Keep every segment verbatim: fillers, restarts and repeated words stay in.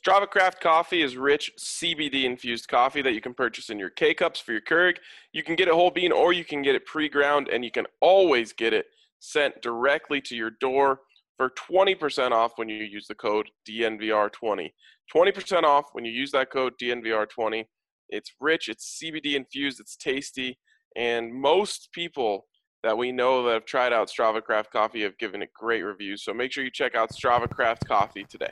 Strava Craft Coffee is rich C B D-infused coffee that you can purchase in your K-Cups for your Keurig. You can get it whole bean or you can get it pre-ground, and you can always get it sent directly to your door for twenty percent off when you use the code D N V R twenty. twenty percent off when you use that code D N V R twenty. It's rich, it's C B D-infused, it's tasty, and most people that we know that have tried out Strava Craft Coffee have given it great reviews. So make sure you check out Strava Craft Coffee today.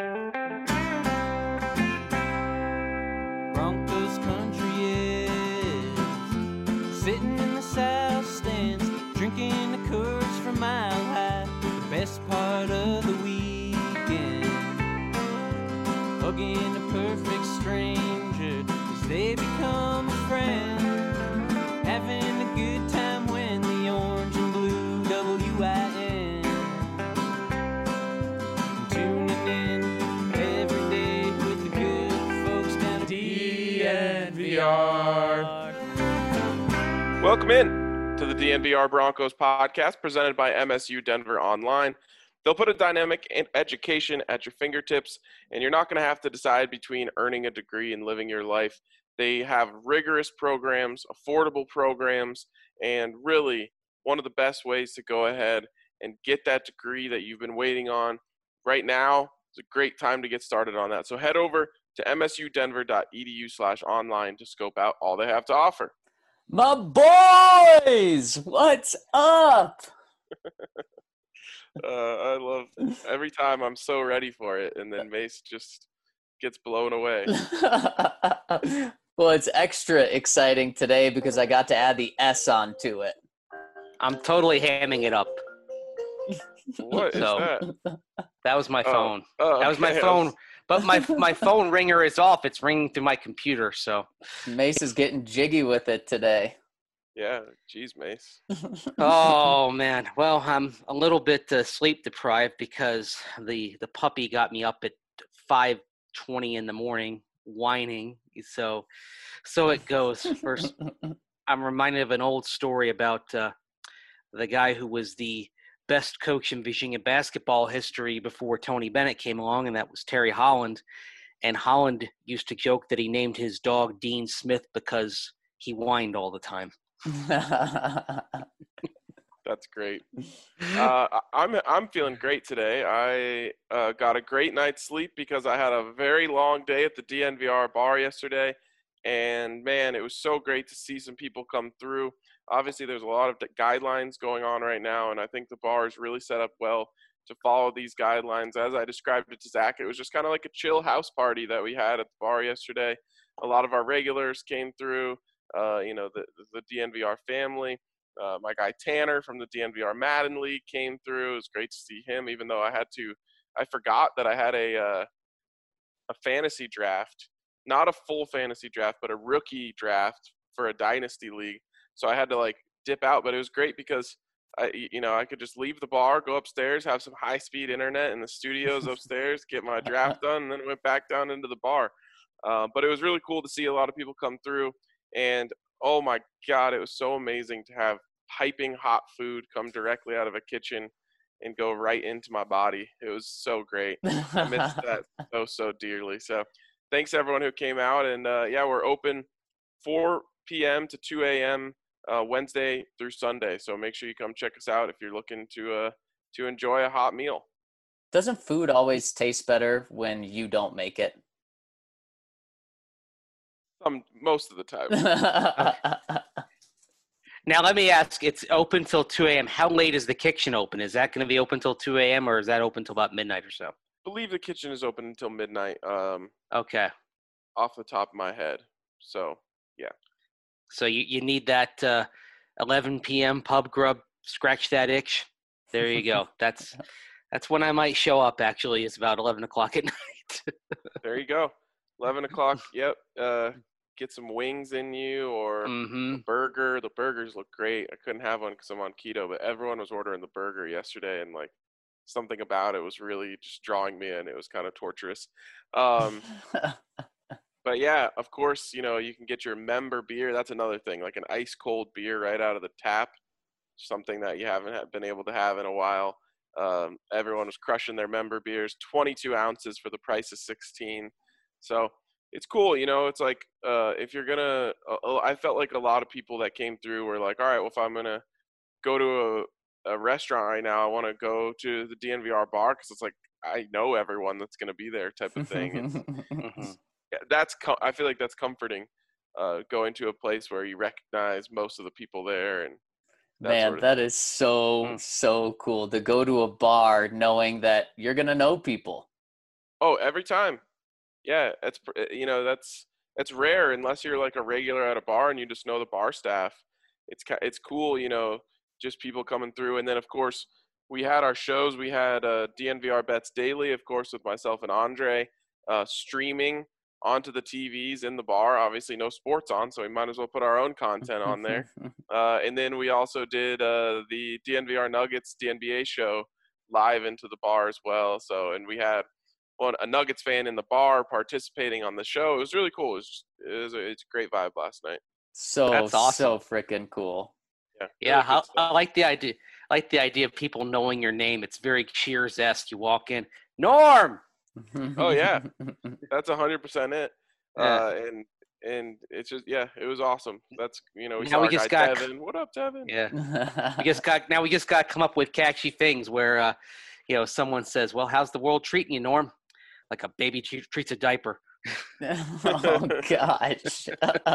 Broncos country is sitting in the south stands, drinking the Coors from Mile High. The best part of the weekend, hugging a perfect stranger as they become a friend, having a good time when the orange and blue W I N, tuning in every day with the good folks down at D N V R. Welcome in to the D N V R Broncos podcast presented by M S U Denver Online. They'll put a dynamic education at your fingertips, and you're not going to have to decide between earning a degree and living your life. They have rigorous programs, affordable programs, and really one of the best ways to go ahead and get that degree that you've been waiting on. Right now is a great time to get started on that. So head over to msudenver.edu slash online to scope out all they have to offer. My boys, what's up? uh, I love every time I'm so ready for it, and then Mace just gets blown away. Well, it's extra exciting today because I got to add the S onto it. I'm totally hamming it up. What is So, that? That was my Oh, phone. oh, That was my okay. phone. But my my phone ringer is off. It's ringing through my computer. So, Mace is getting jiggy with it today. Yeah, geez, Mace. oh man. Well, I'm a little bit uh, sleep deprived because the the puppy got me up at five twenty in the morning whining. So, so it goes. First, I'm reminded of an old story about uh, the guy who was the best coach in Virginia basketball history before Tony Bennett came along, and that was Terry Holland. And Holland used to joke that he named his dog Dean Smith because he whined all the time. That's great. Uh, I- I'm I'm feeling great today. I uh, got a great night's sleep because I had a very long day at the D N V R bar yesterday, and man, it was so great to see some people come through. Obviously, there's a lot of guidelines going on right now, and I think the bar is really set up well to follow these guidelines. As I described it to Zach, it was just kind of like a chill house party that we had at the bar yesterday. A lot of our regulars came through, uh, you know, the, the D N V R family. Uh, my guy Tanner from the D N V R Madden League came through. It was great to see him, even though I had to – I forgot that I had a uh, a fantasy draft, not a full fantasy draft, but a rookie draft for a dynasty league. So I had to, like, dip out. But it was great because, I, you know, I could just leave the bar, go upstairs, have some high-speed internet in the studios upstairs, get my draft done, and then went back down into the bar. Uh, but it was really cool to see a lot of people come through. And – oh my God, it was so amazing to have piping hot food come directly out of a kitchen and go right into my body. It was so great. I missed that so, so dearly. So thanks everyone who came out. And uh, yeah, we're open four p.m. to two a.m. Uh, Wednesday through Sunday. So make sure you come check us out if you're looking to uh, to enjoy a hot meal. Doesn't food always taste better when you don't make it? Um, most of the time. Now, let me ask, it's open till two a.m. How late is the kitchen open? Is that going to be open till two a.m. or is that open till about midnight or so? I believe the kitchen is open until midnight, um, Okay. off the top of my head. So, yeah. So you, you need that uh, eleven p.m. pub grub, scratch that itch. There you go. That's that's when I might show up, actually. It's about eleven o'clock at night. There you go. eleven o'clock, yep. Uh, get some wings in you or Mm-hmm. a burger. The burgers look great. I couldn't have one because I'm on keto, but everyone was ordering the burger yesterday, and like something about it was really just drawing me in. It was kind of torturous. Um, but yeah, of course, you know, you can get your member beer. That's another thing, like an ice cold beer right out of the tap, something that you haven't been able to have in a while. Um, everyone was crushing their member beers, twenty-two ounces for the price of sixteen. So it's cool, you know. It's like uh, if you're gonna, uh, I felt like a lot of people that came through were like, all right, well, if I'm gonna go to a, a restaurant right now, I want to go to the D N V R bar because it's like I know everyone that's gonna be there, type of thing. And Mm-hmm. that's com- I feel like that's comforting, uh, going to a place where you recognize most of the people there and that Man, sort of that thing. is so, Mm. so cool to go to a bar knowing that you're going to know people. Oh, every time. Yeah, it's pr- uh, you know that's that's rare unless you're like a regular at a bar and you just know the bar staff. It's ki- it's cool, you know, just people coming through. And then of course we had our shows. We had uh, D N V R Bets Daily, of course, with myself and Andre, uh, streaming onto the T Vs in the bar. Obviously, no sports on, so we might as well put our own content on there. Uh, and then we also did uh, the D N V R Nuggets D N B A show live into the bar as well. So, and we had one a Nuggets fan in the bar participating on the show. It was really cool. It was, just, it was a, it's a great vibe last night. So, That's awesome. so freaking cool. Yeah, Yeah, really good how, stuff. I like the idea. I like the idea of people knowing your name. It's very Cheers-esque. You walk in, Norm. Oh, yeah. That's a hundred percent it. Yeah. Uh, and and it's just yeah, it was awesome. That's you know we Now saw we our just guy got- Devin. What up, Devin? Yeah, we just got now. We just got to come up with catchy things where, uh, you know, someone says, "Well, how's the world treating you, Norm?" Like a baby tre- treats a diaper. Oh, gosh.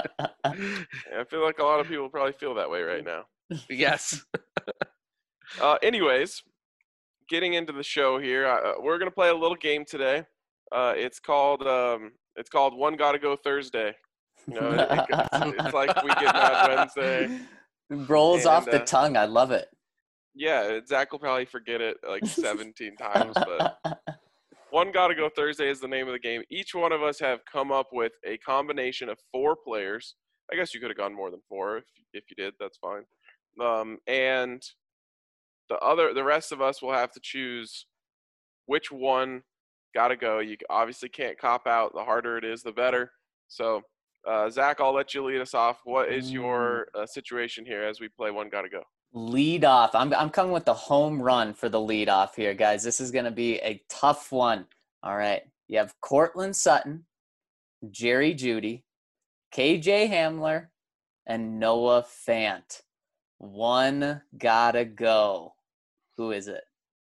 I feel like a lot of people probably feel that way right now. Yes. Uh, anyways, getting into the show here, uh, we're gonna play a little game today. Uh, it's called um, it's called One Gotta Go Thursday. You know, it, it, it's, it's like We Get Mad Wednesday. Rolls And, off the uh, tongue. I love it. Yeah, Zach will probably forget it like seventeen times, but One Gotta Go Thursday is the name of the game. Each one of us have come up with a combination of four players. I guess you could have gone more than four if if you did. That's fine. Um, and the other, the rest of us will have to choose which one gotta go. You obviously can't cop out. The harder it is, the better. So, uh, Zach, I'll let you lead us off. What is your uh, situation here as we play One Gotta Go? Lead off. I'm I'm coming with the home run for the lead off here, guys. This is going to be a tough one. All right. You have Cortland Sutton, Jerry Jeudy, K J Hamler, and Noah Fant. One gotta go. Who is it?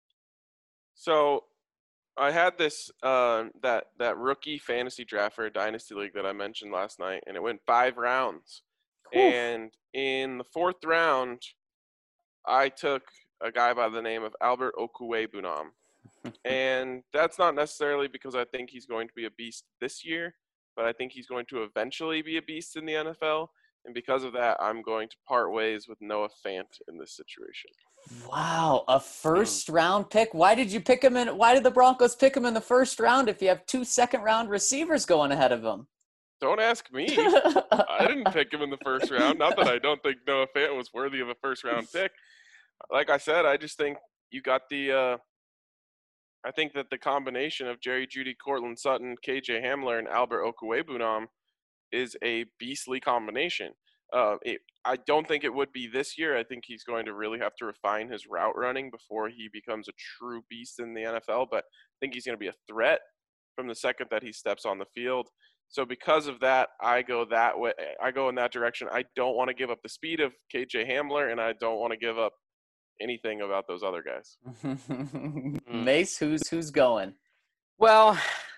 So, I had this uh, that that rookie fantasy draft for a dynasty league that I mentioned last night, and it went five rounds. Oof. And in the fourth round, I took a guy by the name of Albert Okwuegbunam. And that's not necessarily because I think he's going to be a beast this year, but I think he's going to eventually be a beast in the N F L. And because of that, I'm going to part ways with Noah Fant in this situation. Wow, a first round pick. Why did you pick him in? Why did the Broncos pick him in the first round if you have two second round receivers going ahead of him? Don't ask me. I didn't pick him in the first round. Not that I don't think Noah Fant was worthy of a first round pick. Like I said, I just think you got the uh, I think that the combination of Jerry Jeudy, Cortland Sutton, K J Hamler, and Albert Okwuegbunam is a beastly combination. Uh, it, I don't think it would be this year. I think he's going to really have to refine his route running before he becomes a true beast in the N F L. But I think he's going to be a threat from the second that he steps on the field. So because of that, I go that way. I go in that direction. I don't want to give up the speed of K J Hamler, and I don't want to give up anything about those other guys. Mace, who's who's going? Well,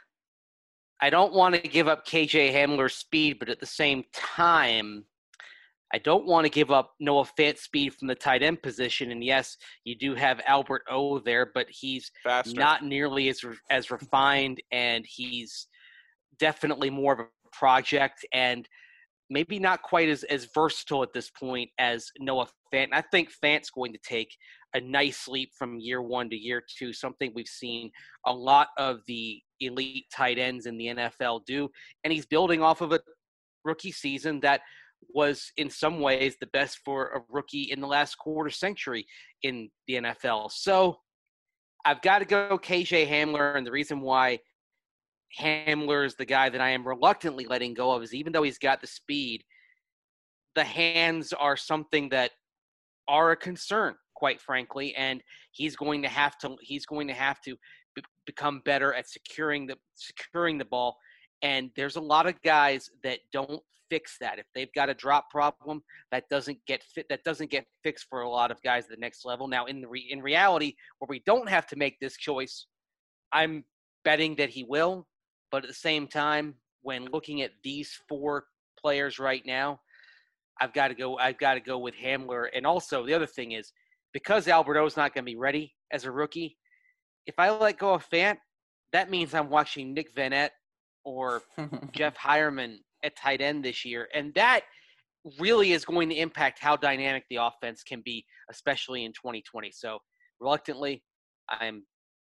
I don't want to give up K J Hamler's speed, but at the same time, I don't want to give up Noah Fant's speed from the tight end position. And yes, you do have Albert O there, but he's Faster. not nearly as as refined, and he's definitely more of a project and maybe not quite as, as versatile at this point as Noah Fant. And I think Fant's going to take a nice leap from year one to year two, something we've seen a lot of the elite tight ends in the N F L do. And he's building off of a rookie season that was in some ways the best for a rookie in the last quarter century in the N F L. So I've got to go K J Hamler, and the reason why Hamler is the guy that I am reluctantly letting go of is even though he's got the speed, the hands are something that are a concern. quite frankly, and he's going to have to he's going to have to b- become better at securing the securing the ball. And there's a lot of guys that don't fix that. If they've got a drop problem, that doesn't get fit. That doesn't get fixed for a lot of guys at the next level. Now, in the re, in reality, where we don't have to make this choice, I'm betting that he will. But at the same time, when looking at these four players right now, I've got to go. I've got to go with Hamler. And also, the other thing is, because Alberto's not going to be ready as a rookie, if I let go of Fant, that means I'm watching Nick Vannett or Jeff Hireman at tight end this year. And that really is going to impact how dynamic the offense can be, especially in twenty twenty. So reluctantly, I'm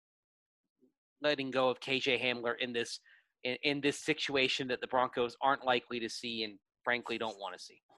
letting go of K J Hamler in this in, in this situation that the Broncos aren't likely to see and frankly don't want to see.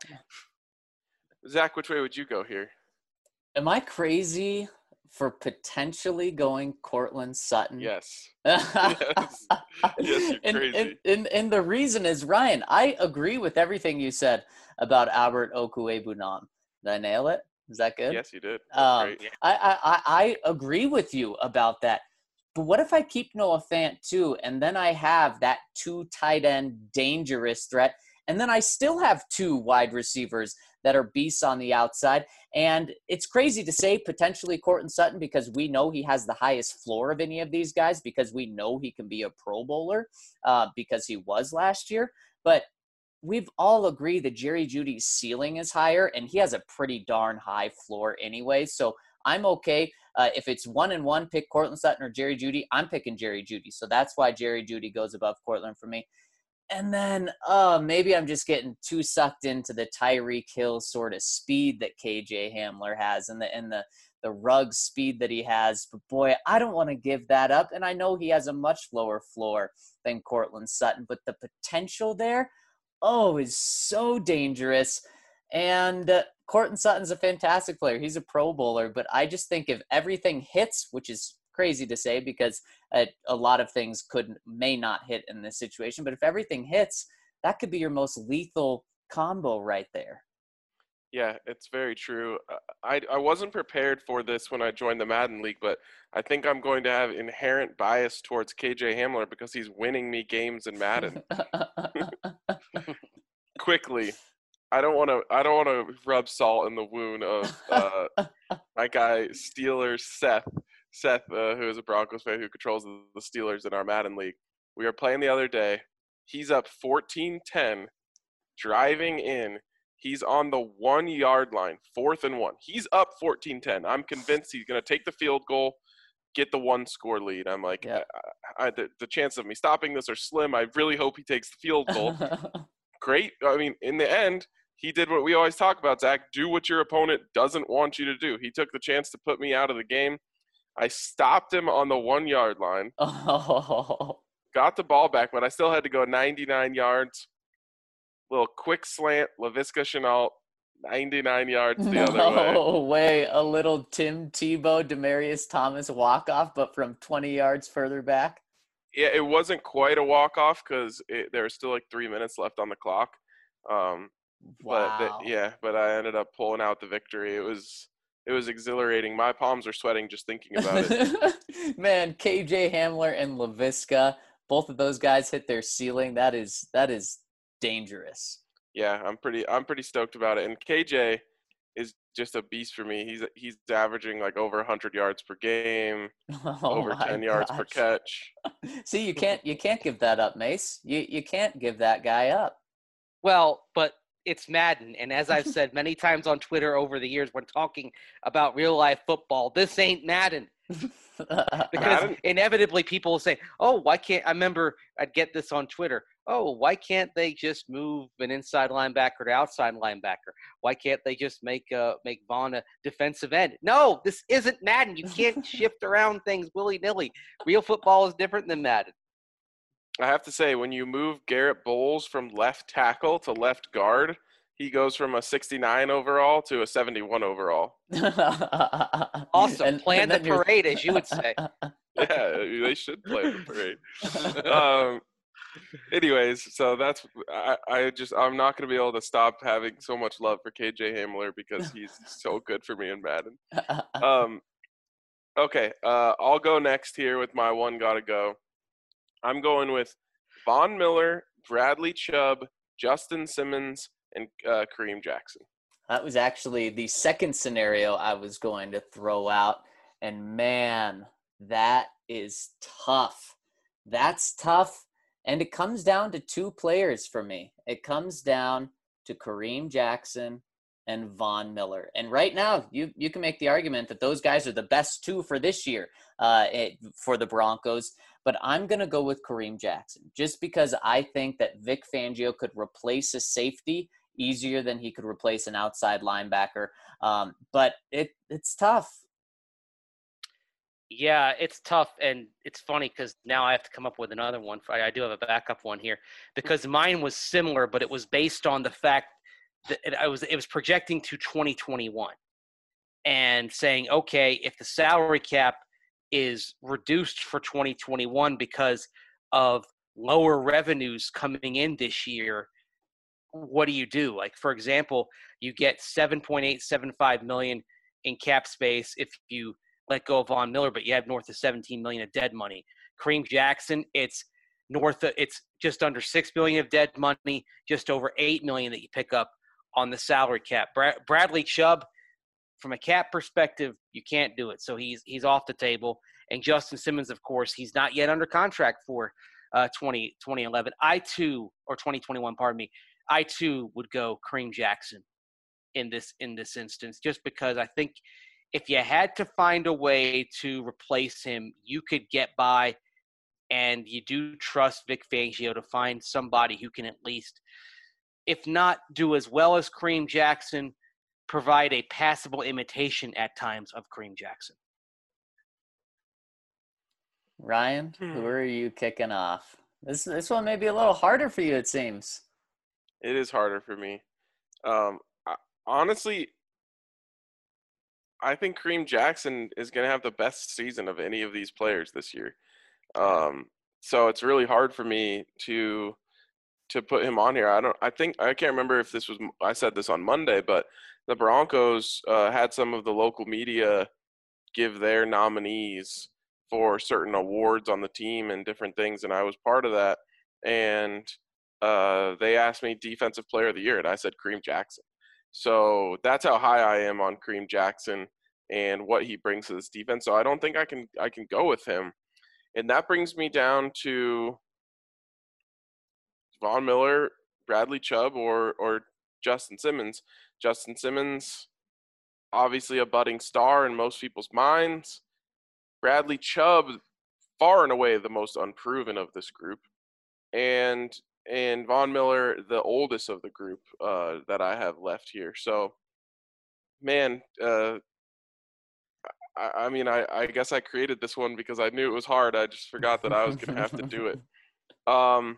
Zach, which way would you go here? Am I crazy for potentially going Cortland Sutton? Yes. yes. Yes, yes, you're crazy. And, and, and, and the reason is, Ryan, I agree with everything you said about Albert Okwuegbunam. Did I nail it? Is that good? Yes, you did. That's Um, great. I, I, I I agree with you about that. But what if I keep Noah Fant too, and then I have that two tight end dangerous threat, and then I still have two wide receivers that are beasts on the outside? And it's crazy to say potentially Cortland Sutton because we know he has the highest floor of any of these guys because we know he can be a Pro Bowler uh, because he was last year. But we've all agreed that Jerry Jeudy's ceiling is higher, and he has a pretty darn high floor anyway. So I'm okay. Uh, if it's one and one, pick Cortland Sutton or Jerry Jeudy. I'm picking Jerry Jeudy. So that's why Jerry Jeudy goes above Cortland for me. And then uh, maybe I'm just getting too sucked into the Tyreek Hill sort of speed that K J Hamler has and the and the the rug speed that he has. But boy, I don't want to give that up. And I know he has a much lower floor than Cortland Sutton, but the potential there, oh, is so dangerous. And uh, Cortland Sutton's a fantastic player. He's a Pro Bowler, but I just think if everything hits, which is crazy to say because uh, a lot of things could may not hit in this situation, but if everything hits, that could be your most lethal combo right there. Yeah, it's very true. Uh, I, I wasn't prepared for this when I joined the Madden League, but I think I'm going to have inherent bias towards K J Hamler because he's winning me games in Madden. Quickly. I don't want to. I don't want to rub salt in the wound of uh, my guy Steelers Seth. Seth, uh, who is a Broncos fan who controls the Steelers in our Madden League. We were playing the other day. He's up fourteen ten, driving in. He's on the one-yard line, fourth and one. He's up fourteen ten. I'm convinced he's going to take the field goal, get the one-score lead. I'm like, Yeah. I, I, the, the chances of me stopping this are slim. I really hope he takes the field goal. Great. I mean, in the end, he did what we always talk about, Zach. Do what your opponent doesn't want you to do. He took the chance to put me out of the game. I stopped him on the one-yard line, Oh. got the ball back, but I still had to go ninety-nine yards. Little quick slant, Laviska Shenault, ninety-nine yards the other way. No way. A little Tim Tebow, Demaryius Thomas walk-off, but from twenty yards further back. Yeah, it wasn't quite a walk-off because there was still like three minutes left on the clock. Um, Wow. But the, yeah, but I ended up pulling out the victory. It was it was exhilarating. My palms are sweating just thinking about it. Man, K J Hamler and Laviska, both of those guys hit their ceiling. That is that is dangerous. Yeah, I'm pretty I'm pretty stoked about it. And K J is just a beast for me. He's he's averaging like over one hundred yards per game, Oh over my ten yards per gosh. catch. See, you can't you can't give that up, Mace. You you can't give that guy up. Well, but it's Madden, and as I've said many times on Twitter over the years when talking about real-life football, this ain't Madden. Because Madden? inevitably people will say, oh, why can't – I remember I'd get this on Twitter. Oh, why can't they just move an inside linebacker to outside linebacker? Why can't they just make uh, make Vaughn a defensive end? No, this isn't Madden. You can't shift around things willy-nilly. Real football is different than Madden. I have to say, when you move Garrett Bowles from left tackle to left guard, he goes from a sixty-nine overall to a seventy-one overall. Awesome. And- Plan and the then you're- parade, as you would say. Yeah, they should play the parade. Um, Anyways, so that's I, I just I'm not going to be able to stop having so much love for K J Hamler because he's so good for me in Madden. Um, okay, uh, I'll go next here with my one gotta go. I'm going with Von Miller, Bradley Chubb, Justin Simmons, and uh, Kareem Jackson. That was actually the second scenario I was going to throw out. And man, that is tough. That's tough. And it comes down to two players for me. It comes down to Kareem Jackson and Von Miller. And right now, you you can make the argument that those guys are the best two for this year uh, it, for the Broncos. But I'm going to go with Kareem Jackson just because I think that Vic Fangio could replace a safety easier than he could replace an outside linebacker. Um, but it it's tough. Yeah, it's tough, and it's funny because now I have to come up with another one. I do have a backup one here because mine was similar, but it was based on the fact that it, I was it was projecting to twenty twenty-one and saying, okay, if the salary cap is reduced for twenty twenty-one because of lower revenues coming in this year, what do you do? Like, for example, you get seven point eight seven five million dollars in cap space if you let go of Von Miller, but you have north of seventeen million of dead money. Kareem Jackson, it's north of, it's just under six million of dead money, just over eight million that you pick up on the salary cap. Brad, Bradley Chubb, from a cap perspective, you can't do it. So he's, he's off the table. And Justin Simmons, of course, he's not yet under contract for uh, twenty, twenty eleven. I too, or twenty twenty-one, pardon me, I too would go Kareem Jackson in this, in this instance, just because I think if you had to find a way to replace him, you could get by, and you do trust Vic Fangio to find somebody who can at least, if not do as well as Kareem Jackson, provide a passable imitation at times of Kareem Jackson. Ryan, who are you kicking off? This this one may be a little harder for you, it seems. It is harder for me. Um, I, honestly, I think Kareem Jackson is going to have the best season of any of these players this year. Um, so it's really hard for me to to put him on here. I don't. I think I can't remember if this was. I said this on Monday, but the Broncos uh, had some of the local media give their nominees for certain awards on the team and different things, and I was part of that. And uh, they asked me Defensive Player of the Year, and I said Kareem Jackson. So that's how high I am on Kareem Jackson and what he brings to this defense. So I don't think I can I can go with him. And that brings me down to Von Miller, Bradley Chubb, or or Justin Simmons. Justin Simmons, obviously a budding star in most people's minds. Bradley Chubb, far and away the most unproven of this group. And and Von Miller, the oldest of the group uh, that I have left here. So, man, uh, I, I mean, I, I guess I created this one because I knew it was hard. I just forgot that I was going to have to do it. Um,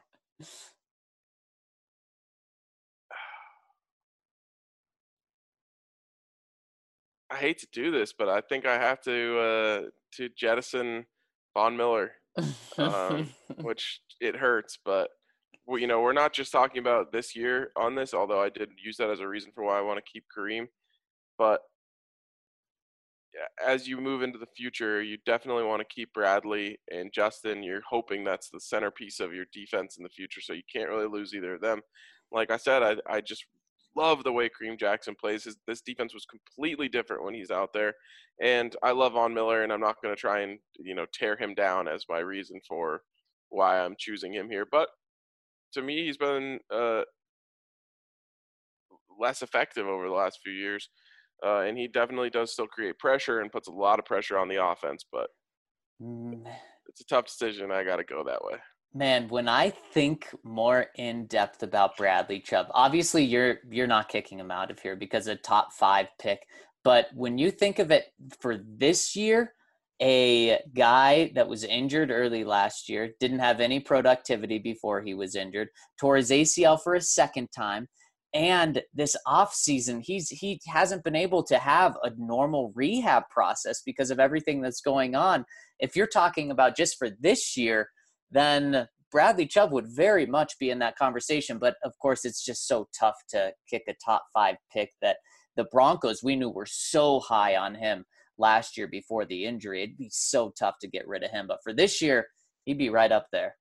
I hate to do this, but I think I have to uh, to jettison Von Miller, um, which it hurts, but well, you know, we're not just talking about this year on this, although I did use that as a reason for why I want to keep Kareem. But as you move into the future, you definitely want to keep Bradley and Justin. You're hoping that's the centerpiece of your defense in the future, so you can't really lose either of them. Like I said, I, I just love the way Kareem Jackson plays. His, this defense was completely different when he's out there. And I love Von Miller, and I'm not going to try and, you know, tear him down as my reason for why I'm choosing him here. But to me, he's been uh, less effective over the last few years. Uh, and he definitely does still create pressure and puts a lot of pressure on the offense. But it's a tough decision. I got to go that way. Man, when I think more in depth about Bradley Chubb, obviously you're you're not kicking him out of here because a top five pick. But when you think of it for this year, a guy that was injured early last year, didn't have any productivity before he was injured, tore his A C L for a second time, and this offseason, he's he hasn't been able to have a normal rehab process because of everything that's going on. If you're talking about just for this year, then Bradley Chubb would very much be in that conversation, but of course it's just so tough to kick a top five pick that the Broncos, we knew were so high on him last year before the injury. It'd be so tough to get rid of him. But for this year, he'd be right up there.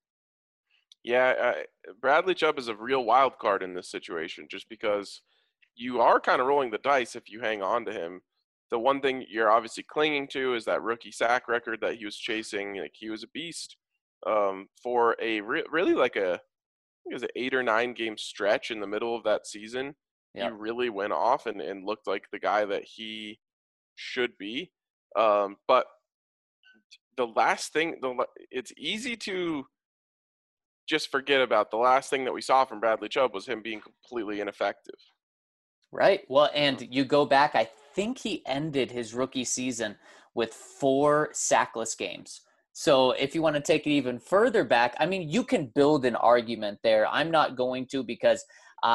Yeah, uh, Bradley Chubb is a real wild card in this situation just because you are kind of rolling the dice if you hang on to him. The one thing you're obviously clinging to is that rookie sack record that he was chasing. Like, he was a beast um, for a re- really like a, I think it was an eight or nine game stretch in the middle of that season. Yep. He really went off and, and looked like the guy that he should be. Um, but the last thing, the it's easy to just forget about. The last thing that we saw from Bradley Chubb was him being completely ineffective. Right. Well, and you go back, I think he ended his rookie season with four sackless games. So if you want to take it even further back, I mean, you can build an argument there. I'm not going to, because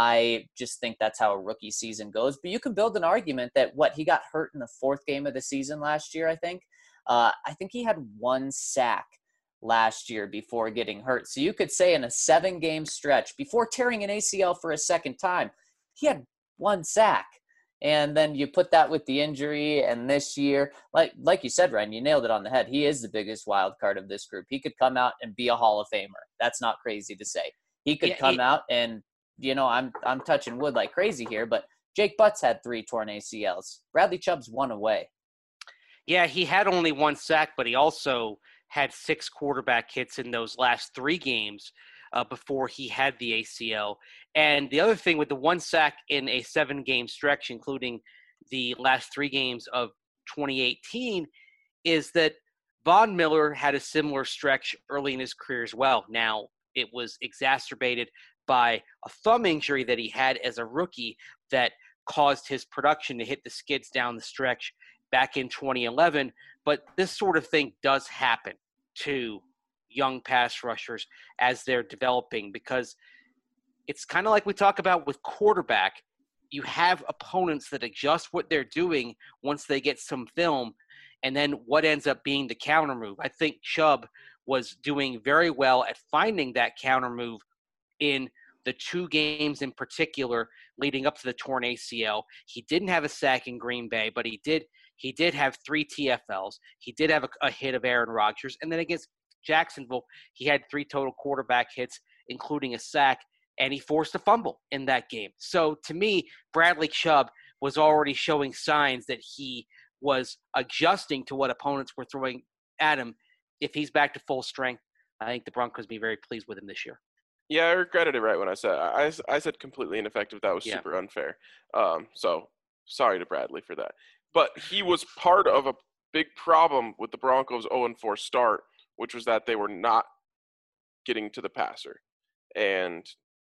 I just think that's how a rookie season goes. But you can build an argument that, what, he got hurt in the fourth game of the season last year, I think. Uh, I think he had one sack last year before getting hurt. So you could say in a seven-game stretch, before tearing an A C L for a second time, he had one sack. And then you put that with the injury, and this year, like like you said, Ryan, you nailed it on the head. He is the biggest wild card of this group. He could come out and be a Hall of Famer. That's not crazy to say. He could yeah, come he, out and, you know, I'm I'm touching wood like crazy here, but Jake Butts had three torn A C Ls. Bradley Chubb's one away. Yeah, he had only one sack, but he also had six quarterback hits in those last three games uh, before he had the A C L. And the other thing with the one sack in a seven-game stretch, including the last three games of twenty eighteen, is that Von Miller had a similar stretch early in his career as well. Now, it was exacerbated by a thumb injury that he had as a rookie that caused his production to hit the skids down the stretch back in twenty eleven. But this sort of thing does happen to young pass rushers as they're developing, because it's kind of like we talk about with quarterback. You have opponents that adjust what they're doing once they get some film, and then what ends up being the counter move. I think Chubb was doing very well at finding that counter move in the two games in particular leading up to the torn A C L. He didn't have a sack in Green Bay, but he did he did have three T F Ls. He did have a, a hit of Aaron Rodgers. And then against Jacksonville, he had three total quarterback hits, including a sack, and he forced a fumble in that game. So to me, Bradley Chubb was already showing signs that he was adjusting to what opponents were throwing at him. If he's back to full strength, I think the Broncos will be very pleased with him this year. Yeah, I regretted it right when I said I, I said completely ineffective. That was yeah. super unfair. Um, so sorry to Bradley for that. But he was part of a big problem with the Broncos' oh and four start, which was that they were not getting to the passer. And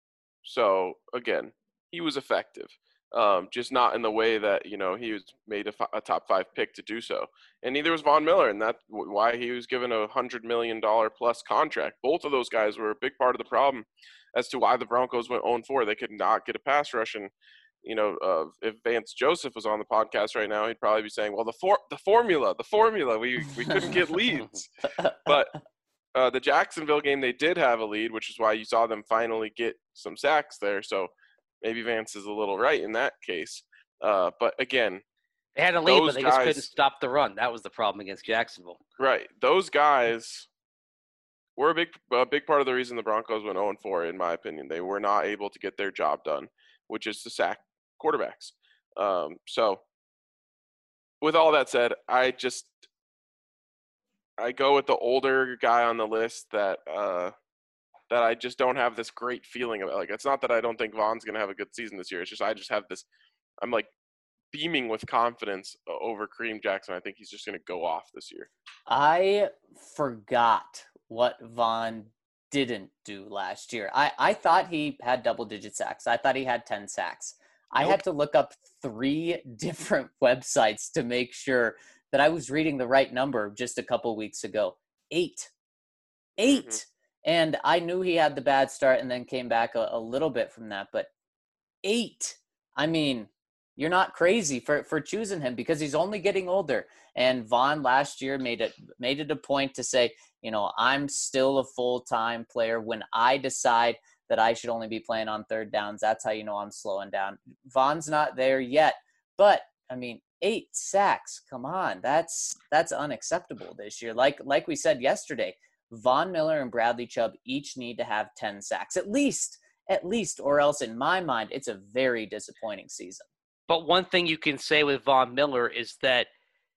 so, again, he was effective, um, just not in the way that, you know, he was made a, f- a top five pick to do so. And neither was Von Miller, and that's why he was given a one hundred million dollars plus contract. Both of those guys were a big part of the problem as to why the Broncos went oh and four. They could not get a pass rush. And, you know, uh, if Vance Joseph was on the podcast right now, he'd probably be saying, well, the for- the formula, the formula, we, we couldn't get leads. But uh, the Jacksonville game, they did have a lead, which is why you saw them finally get some sacks there. So maybe Vance is a little right in that case. Uh, but again, they had a lead, but they guys, just couldn't stop the run. That was the problem against Jacksonville. Right. Those guys were a big, a big part of the reason the Broncos went oh and four, in my opinion. They were not able to get their job done, which is to sack quarterbacks. Um, so with all that said, I just, I go with the older guy on the list that, uh, that I just don't have this great feeling about. Like, it's not that I don't think Von's going to have a good season this year. It's just, I just have this, I'm like beaming with confidence over Kareem Jackson. I think he's just going to go off this year. I forgot what Von didn't do last year. I, I thought he had double digit sacks. I thought he had ten sacks. Nope. I had to look up three different websites to make sure that I was reading the right number just a couple weeks ago. Eight. Eight. Mm-hmm. And I knew he had the bad start and then came back a, a little bit from that, but eight. I mean, you're not crazy for, for choosing him because he's only getting older. And Vaughn last year made it made it a point to say, you know, I'm still a full-time player. When I decide that I should only be playing on third downs, that's how you know I'm slowing down. Vaughn's not there yet, but I mean, eight sacks. Come on, that's that's unacceptable this year. Like like we said yesterday, Von Miller and Bradley Chubb each need to have ten sacks at least, at least, or else in my mind, it's a very disappointing season. But one thing you can say with Von Miller is that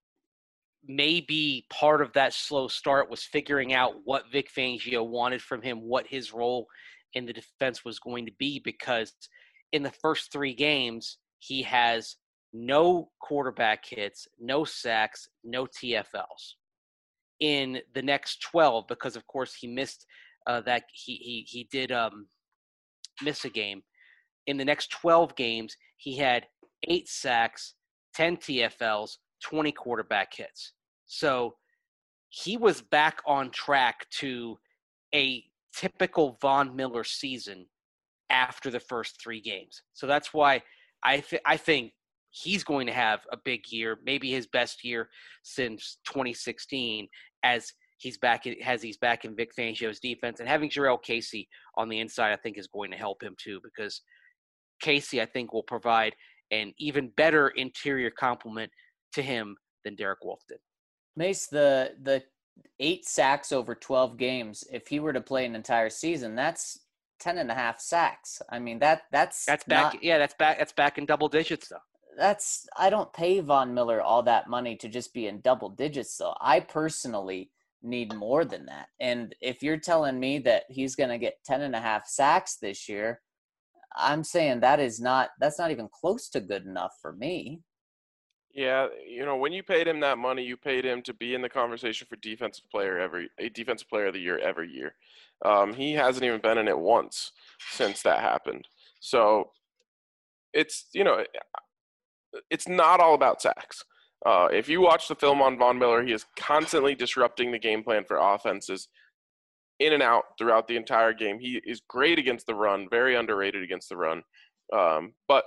maybe part of that slow start was figuring out what Vic Fangio wanted from him, what his role in the defense was going to be, because in the first three games, he has no quarterback hits, no sacks, no T F Ls. In the next twelve, because of course he missed uh, that he he he did um, miss a game. In the next twelve games, he had eight sacks, ten T F Ls, twenty quarterback hits. So he was back on track to a typical Von Miller season after the first three games. So that's why I th- I think he's going to have a big year, maybe his best year since twenty sixteen, as he's back in, as he's back in Vic Fangio's defense. And having Jurrell Casey on the inside, I think, is going to help him too, because Casey, I think, will provide an even better interior complement to him than Derek Wolfe did. Mace, the the eight sacks over twelve games, if he were to play an entire season, that's ten and a half sacks. I mean, that that's that's back. Not, yeah, that's back. That's back in double digits, though. That's I don't pay Von Miller all that money to just be in double digits, though. I personally need more than that. And if you're telling me that he's going to get ten and a half sacks this year, I'm saying that is not that's not even close to good enough for me. Yeah, you know, when you paid him that money, you paid him to be in the conversation for defensive player every a defensive player of the year every year. Um, he hasn't even been in it once since that happened. So it's, you know, it's not all about sacks. Uh, if you watch the film on Von Miller, he is constantly disrupting the game plan for offenses in and out throughout the entire game. He is great against the run, very underrated against the run. Um, but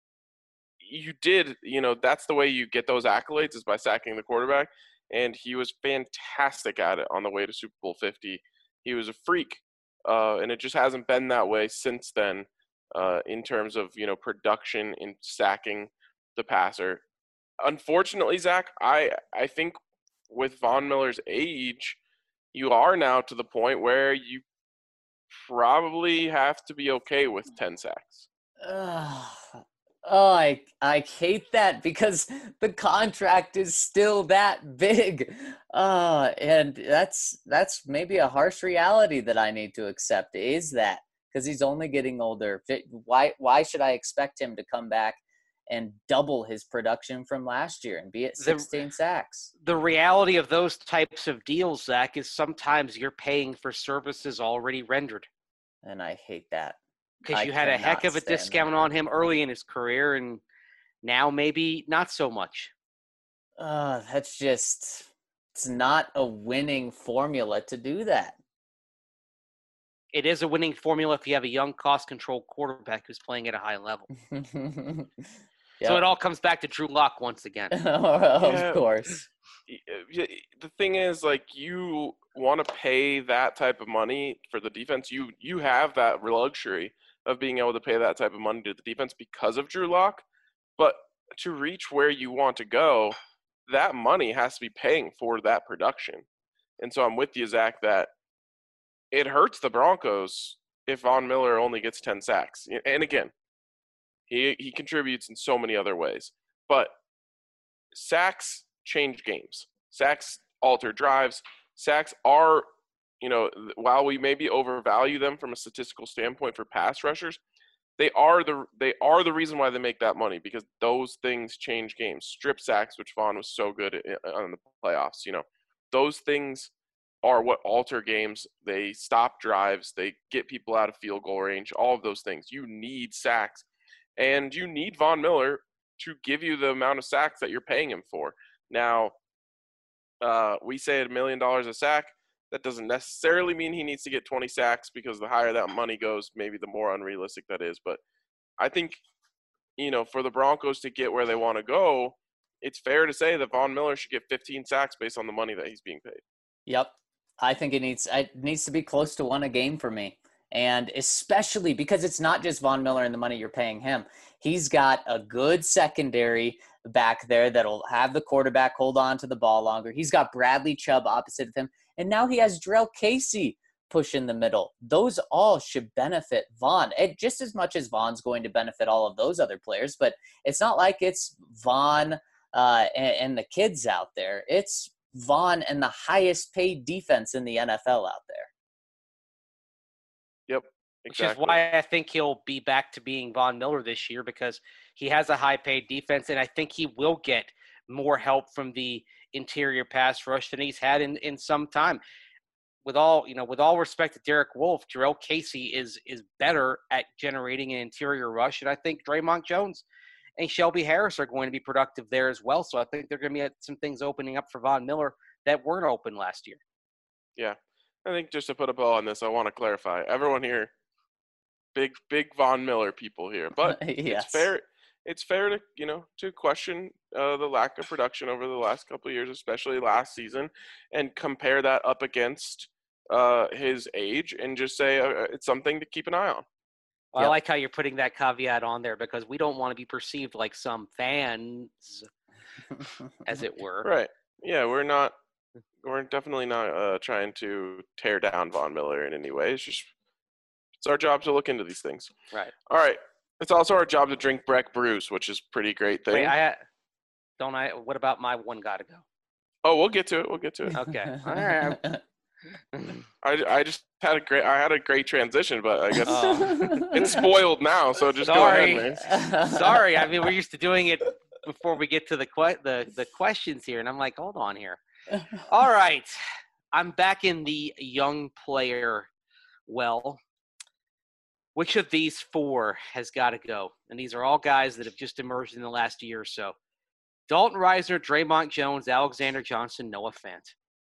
you did, you know, that's the way you get those accolades, is by sacking the quarterback. And he was fantastic at it on the way to Super Bowl fifty. He was a freak. Uh, and it just hasn't been that way since then uh, in terms of, you know, production in sacking the passer. Unfortunately, Zach, I, I think with Von Miller's age, you are now to the point where you probably have to be okay with ten sacks. Uh, oh, I I hate that because the contract is still that big. Uh, and that's that's maybe a harsh reality that I need to accept, is that because he's only getting older. Why why should I expect him to come back and double his production from last year and be at sixteen the, sacks? The reality of those types of deals, Zach, is sometimes you're paying for services already rendered. And I hate that. Because you had a heck of a discount that. on him early in his career, and now maybe not so much. Uh, that's just, it's not a winning formula to do that. It is a winning formula if you have a young, cost-controlled quarterback who's playing at a high level. Yep. So it all comes back to Drew Lock once again. Of yeah. course. The thing is, like, you want to pay that type of money for the defense. You you have that luxury of being able to pay that type of money to the defense because of Drew Lock. But to reach where you want to go, that money has to be paying for that production. And so I'm with you, Zach, that it hurts the Broncos if Von Miller only gets ten sacks. And again, he he contributes in so many other ways. But sacks change games. Sacks alter drives. Sacks are, you know, while we maybe overvalue them from a statistical standpoint for pass rushers, they are the they are the reason why they make that money, because those things change games. Strip sacks, which Vaughn was so good at on the playoffs, you know, those things are what alter games. They stop drives. They get people out of field goal range. All of those things. You need sacks, and you need Von Miller to give you the amount of sacks that you're paying him for. Now, uh, we say a million dollars a sack. That doesn't necessarily mean he needs to get twenty sacks, because the higher that money goes, maybe the more unrealistic that is. But I think you know, for the Broncos to get where they want to go, it's fair to say that Von Miller should get fifteen sacks based on the money that he's being paid. Yep. I think it needs it needs to be close to one a game for me. And especially because it's not just Von Miller and the money you're paying him. He's got a good secondary back there that'll have the quarterback hold on to the ball longer. He's got Bradley Chubb opposite of him. And now he has Jurrell Casey push in the middle. Those all should benefit Von, it, just as much as Von's going to benefit all of those other players. But it's not like it's Von uh, and, and the kids out there. It's Von and the highest paid defense in the N F L out there. Yep, exactly. Which is why I think he'll be back to being Von Miller this year, because he has a high-paid defense, and I think he will get more help from the interior pass rush than he's had in, in some time. With all you know, with all respect to Derek Wolfe, Jurrell Casey is is better at generating an interior rush, and I think Draymond Jones and Shelby Harris are going to be productive there as well. So I think they're going to be some things opening up for Von Miller that weren't open last year. Yeah. I think just to put a bow on this, I want to clarify. Everyone here, big, big Von Miller people here. But yes. it's fair it's fair to, you know, to question uh, the lack of production over the last couple of years, especially last season, and compare that up against uh, his age and just say uh, it's something to keep an eye on. Well, Yep. I like how you're putting that caveat on there, because we don't want to be perceived like some fans, as it were. Right. Yeah, we're not we're definitely not uh, trying to tear down Von Miller in any way. It's just it's our job to look into these things. Right. All right. It's also our job to drink Breck Brews, which is a pretty great thing. Wait, I don't I what about my one gotta go? Oh, we'll get to it. We'll get to it. Okay. All right. I, I just had a great I had a great transition, but I guess Oh. it's spoiled now. So just Sorry. go ahead, man. Sorry, I mean we're used to doing it before we get to the que- the the questions here, and I'm like, hold on here. All right, I'm back in the young player well. Which of these four has got to go? And these are all guys that have just emerged in the last year or so. Dalton Risner, Draymond Jones, Alexander Johnson, Noah Fant.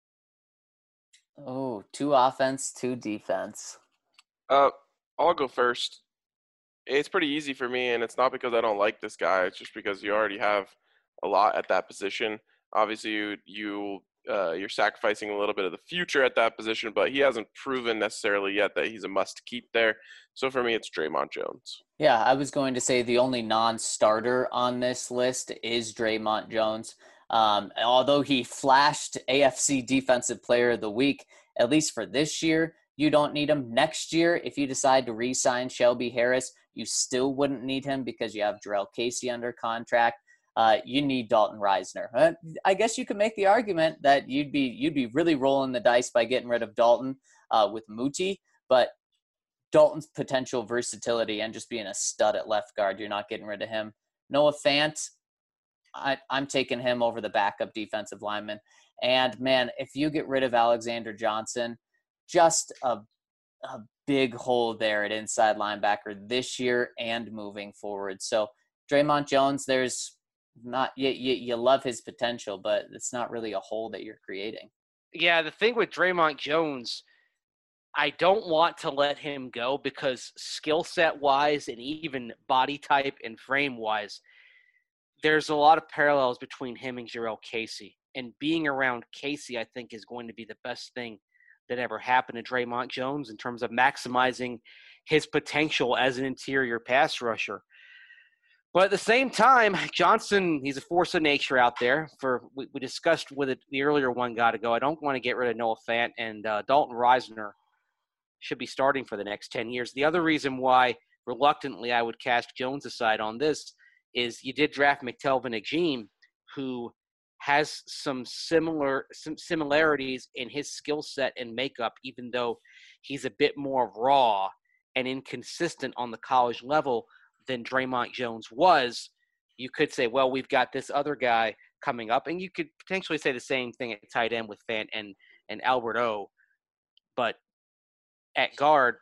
Oh, two offense, two defense. Uh, I'll go first. It's pretty easy for me, and it's not because I don't like this guy. It's just because you already have a lot at that position. Obviously, you you uh, you're sacrificing a little bit of the future at that position, but he hasn't proven necessarily yet that he's a must-keep there. So for me, it's Draymond Jones. Yeah, I was going to say the only non-starter on this list is Draymond Jones. Um, although he flashed A F C Defensive Player of the Week, at least for this year, you don't need him. Next year, if you decide to re-sign Shelby Harris, you still wouldn't need him because you have Jurrell Casey under contract. Uh, you need Dalton Risner. Uh, I guess you could make the argument that you'd be you'd be really rolling the dice by getting rid of Dalton uh, with Muti, but Dalton's potential versatility and just being a stud at left guard, you're not getting rid of him. Noah Fant, I, I'm taking him over the backup defensive lineman. And, man, if you get rid of Alexander Johnson, just a, a big hole there at inside linebacker this year and moving forward. So, Draymond Jones, there's not you, you, you love his potential, but it's not really a hole that you're creating. Yeah, the thing with Draymond Jones, I don't want to let him go because skill set wise and even body type and frame wise, there's a lot of parallels between him and Jurrell Casey. And being around Casey, I think, is going to be the best thing that ever happened to Draymond Jones in terms of maximizing his potential as an interior pass rusher. But at the same time, Johnson, he's a force of nature out there. For we, we discussed with it, the earlier one got to go. I don't want to get rid of Noah Fant, and uh, Dalton Risner should be starting for the next ten years. The other reason why, reluctantly, I would cast Jones aside on this is you did draft McTelvin Agim, who has some similar some similarities in his skill set and makeup, even though he's a bit more raw and inconsistent on the college level than Draymond Jones was. You could say, well, we've got this other guy coming up, and you could potentially say the same thing at tight end with Fant and, and Albert O. But at guard,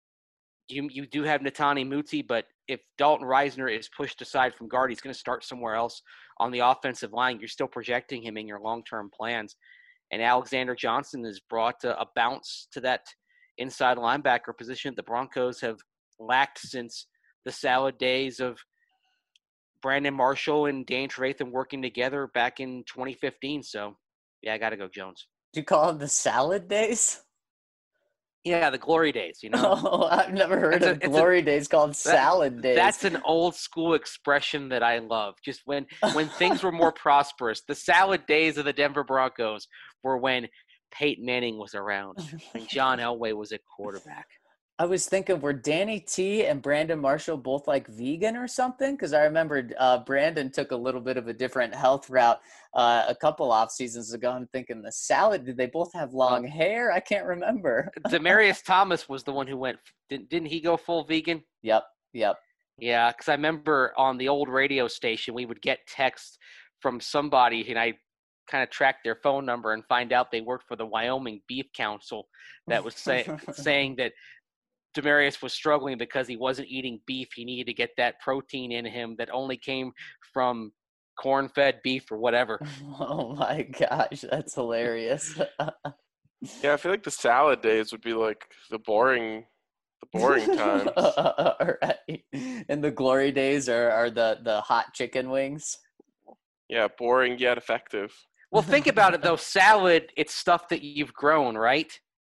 you you do have Netani Muti, but if Dalton Risner is pushed aside from guard, he's going to start somewhere else on the offensive line. You're still projecting him in your long-term plans. And Alexander Johnson has brought a, a bounce to that inside linebacker position the Broncos have lacked since the salad days of Brandon Marshall and Dan Trevathan working together back in twenty fifteen. So, yeah, I got to go Jones. Do you call them the salad days? Yeah, the glory days, you know. Oh, I've never heard It's a- of it's a- glory days called salad days. That's an old school expression that I love. Just when when things were more prosperous, the salad days of the Denver Broncos were when Peyton Manning was around and John Elway was at quarterback. I was thinking, were Danny T and Brandon Marshall both like vegan or something? Because I remember uh, Brandon took a little bit of a different health route uh, a couple off seasons ago. I'm thinking the salad, did they both have long Well, hair? I can't remember. Demarius Thomas was the one who went. Didn't, didn't he go full vegan? Yep, yep. Yeah, because I remember on the old radio station, we would get texts from somebody, and I kind of tracked their phone number and find out they worked for the Wyoming Beef Council that was say, saying that Demarius was struggling because he wasn't eating beef. He needed to get that protein in him that only came from corn-fed beef or whatever. Oh my gosh, that's hilarious. Yeah, I feel like the salad days would be like the boring, the boring times. Right. And the glory days are, are the, the hot chicken wings. Yeah, boring yet effective. Well, think about it, though. Salad, it's stuff that you've grown, right?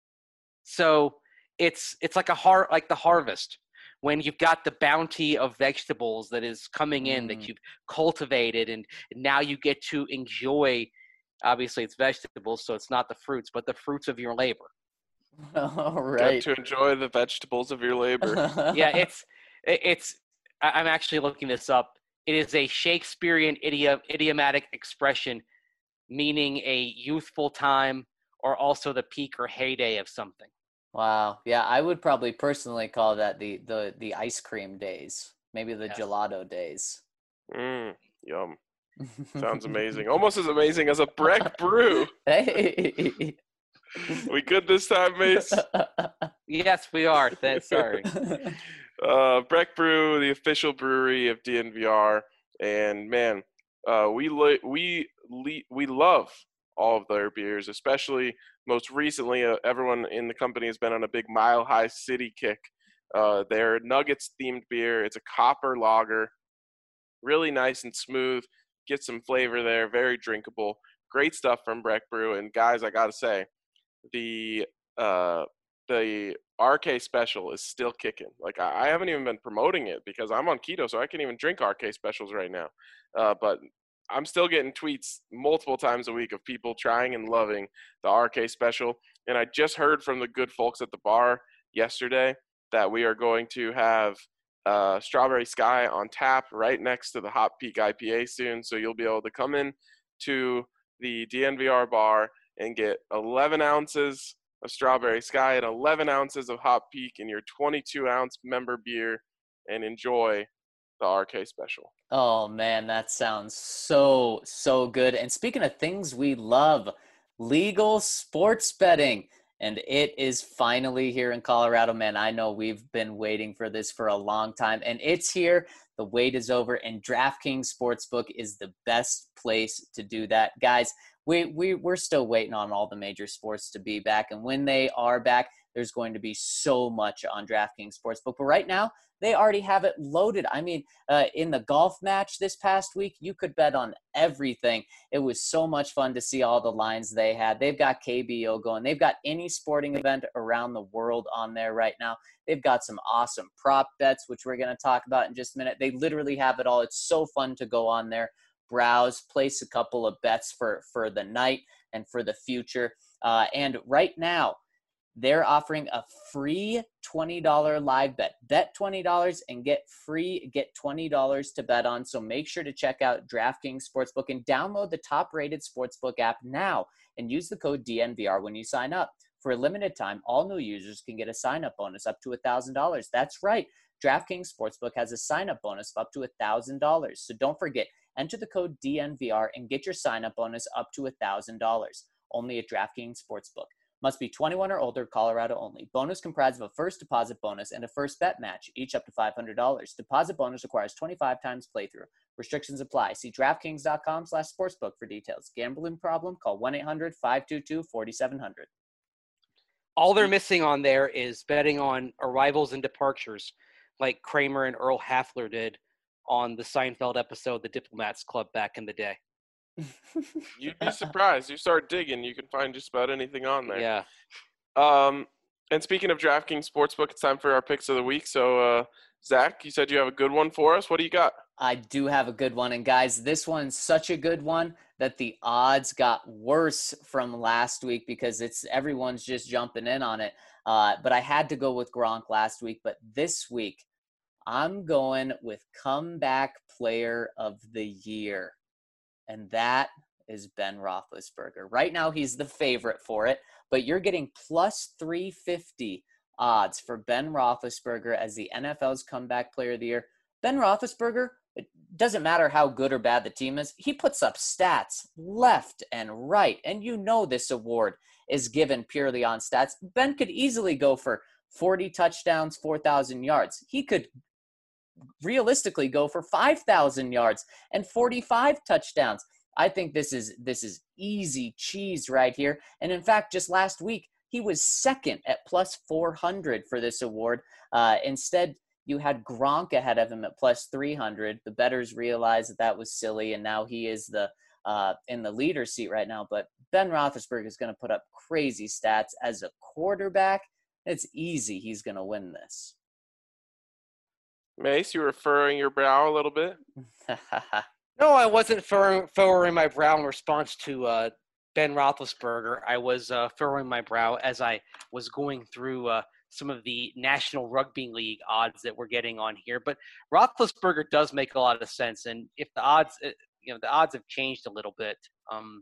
So it's it's like a har- like the harvest when you've got the bounty of vegetables that is coming in Mm. that you've cultivated, and now you get to enjoy. Obviously, it's vegetables, so it's not the fruits, but the fruits of your labor. All Get right. to enjoy the vegetables of your labor. Yeah, it's it- it's. I- I'm actually looking this up. It is a Shakespearean idiom, idiomatic expression meaning a youthful time or also the peak or heyday of something. Wow. Yeah, I would probably personally call that the the the ice cream days, maybe the Yes. gelato days. Mm, yum. Sounds amazing. Almost as amazing as a Breck brew. Hey. We good this time, Mace? Yes, we are. Th- sorry. Uh, Breck Brew, the official brewery of D N V R, and man, uh, we lo- we le- we love all of their beers, especially most recently. Uh, everyone in the company has been on a big Mile High City kick. Uh, their Nuggets themed beer. It's a copper lager, really nice and smooth. Get some flavor there, very drinkable. Great stuff from Breck Brew. And guys, I gotta say, the uh, the R K special is still kicking. Like I, I haven't even been promoting it because I'm on keto, so I can't even drink R K specials right now. Uh, but I'm still getting tweets multiple times a week of people trying and loving the R K special. And I just heard from the good folks at the bar yesterday that we are going to have uh, Strawberry Sky on tap right next to the Hop Peak I P A soon. So you'll be able to come in to the D N V R bar and get eleven ounces of Strawberry Sky and eleven ounces of Hop Peak in your twenty-two ounce member beer and enjoy the R K special. Oh man, that sounds so, so good. And speaking of things we love, legal sports betting. And it is finally here in Colorado, man. I know we've been waiting for this for a long time, and it's here. The wait is over, and DraftKings Sportsbook is the best place to do that. Guys, we, we, we're still waiting on all the major sports to be back, and when they are back, there's going to be so much on DraftKings Sportsbook. But right now, they already have it loaded. I mean, uh, in the golf match this past week, you could bet on everything. It was so much fun to see all the lines they had. They've got K B O going. They've got any sporting event around the world on there right now. They've got some awesome prop bets, which we're going to talk about in just a minute. They literally have it all. It's so fun to go on there, browse, place a couple of bets for, for the night and for the future. Uh, and right now, they're offering a free twenty dollars live bet. Bet twenty dollars and get free, get twenty dollars to bet on. So make sure to check out DraftKings Sportsbook and download the top-rated Sportsbook app now and use the code D N V R when you sign up. For a limited time, all new users can get a sign-up bonus up to one thousand dollars. That's right. DraftKings Sportsbook has a sign-up bonus of up to one thousand dollars. So don't forget, enter the code D N V R and get your sign-up bonus up to one thousand dollars. Only at DraftKings Sportsbook. Must be twenty-one or older, Colorado only. Bonus comprised of a first deposit bonus and a first bet match, each up to five hundred dollars. Deposit bonus requires twenty-five times playthrough. Restrictions apply. See DraftKings.com slash sportsbook for details. Gambling problem? Call one eight hundred five two two four seven zero zero. All they're missing on there is betting on arrivals and departures like Kramer and Earl Hafler did on the Seinfeld episode, The Diplomats Club, back in the day. You'd be surprised. You start digging, you can find just about anything on there. Yeah. Um, and speaking of DraftKings Sportsbook, it's time for our picks of the week. So, uh, Zach, you said you have a good one for us. What do you got? I do have a good one. And guys, this one's such a good one that the odds got worse from last week because it's everyone's just jumping in on it. Uh, but I had to go with Gronk last week. But this week, I'm going with comeback player of the year. And that is Ben Roethlisberger. Right now, he's the favorite for it. But you're getting plus three fifty odds for Ben Roethlisberger as the N F L's comeback player of the year. Ben Roethlisberger, it doesn't matter how good or bad the team is, he puts up stats left and right. And you know this award is given purely on stats. Ben could easily go for forty touchdowns, four thousand yards. He could realistically go for five thousand yards and forty-five touchdowns. I think this is this is easy cheese right here. And in fact, just last week, he was second at plus four hundred for this award. Uh, instead, you had Gronk ahead of him at plus three hundred. The bettors realized that that was silly, and now he is the uh, in the leader seat right now. But Ben Roethlisberger is going to put up crazy stats as a quarterback. It's easy. He's going to win this. Mace, you were furrowing your brow a little bit. No, I wasn't furrowing, furrowing my brow in response to uh, Ben Roethlisberger. I was uh, furrowing my brow as I was going through uh, some of the National Rugby League odds that we're getting on here. But Roethlisberger does make a lot of sense, and if the odds, you know, the odds have changed a little bit. Um,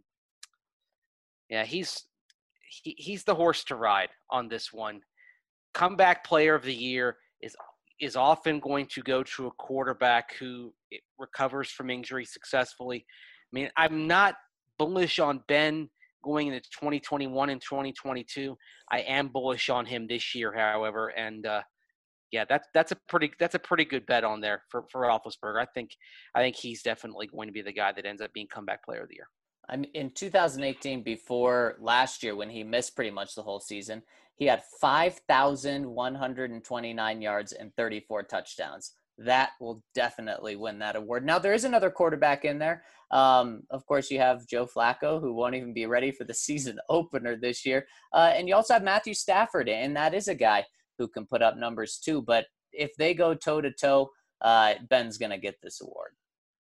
yeah, he's he, he's the horse to ride on this one. Comeback player of the year is is often going to go to a quarterback who recovers from injury successfully. I mean, I'm not bullish on Ben going into twenty twenty-one and twenty twenty-two. I am bullish on him this year, however, and uh, yeah, that's that's a pretty that's a pretty good bet on there for for Roethlisberger. I think I think he's definitely going to be the guy that ends up being comeback player of the year. I'm in two thousand eighteen, before last year when he missed pretty much the whole season, he had five thousand one hundred twenty-nine yards and thirty-four touchdowns. That will definitely win that award. Now, there is another quarterback in there. Um, of course, you have Joe Flacco, who won't even be ready for the season opener this year. Uh, and you also have Matthew Stafford, and that is a guy who can put up numbers too. But if they go toe-to-toe, uh, Ben's going to get this award.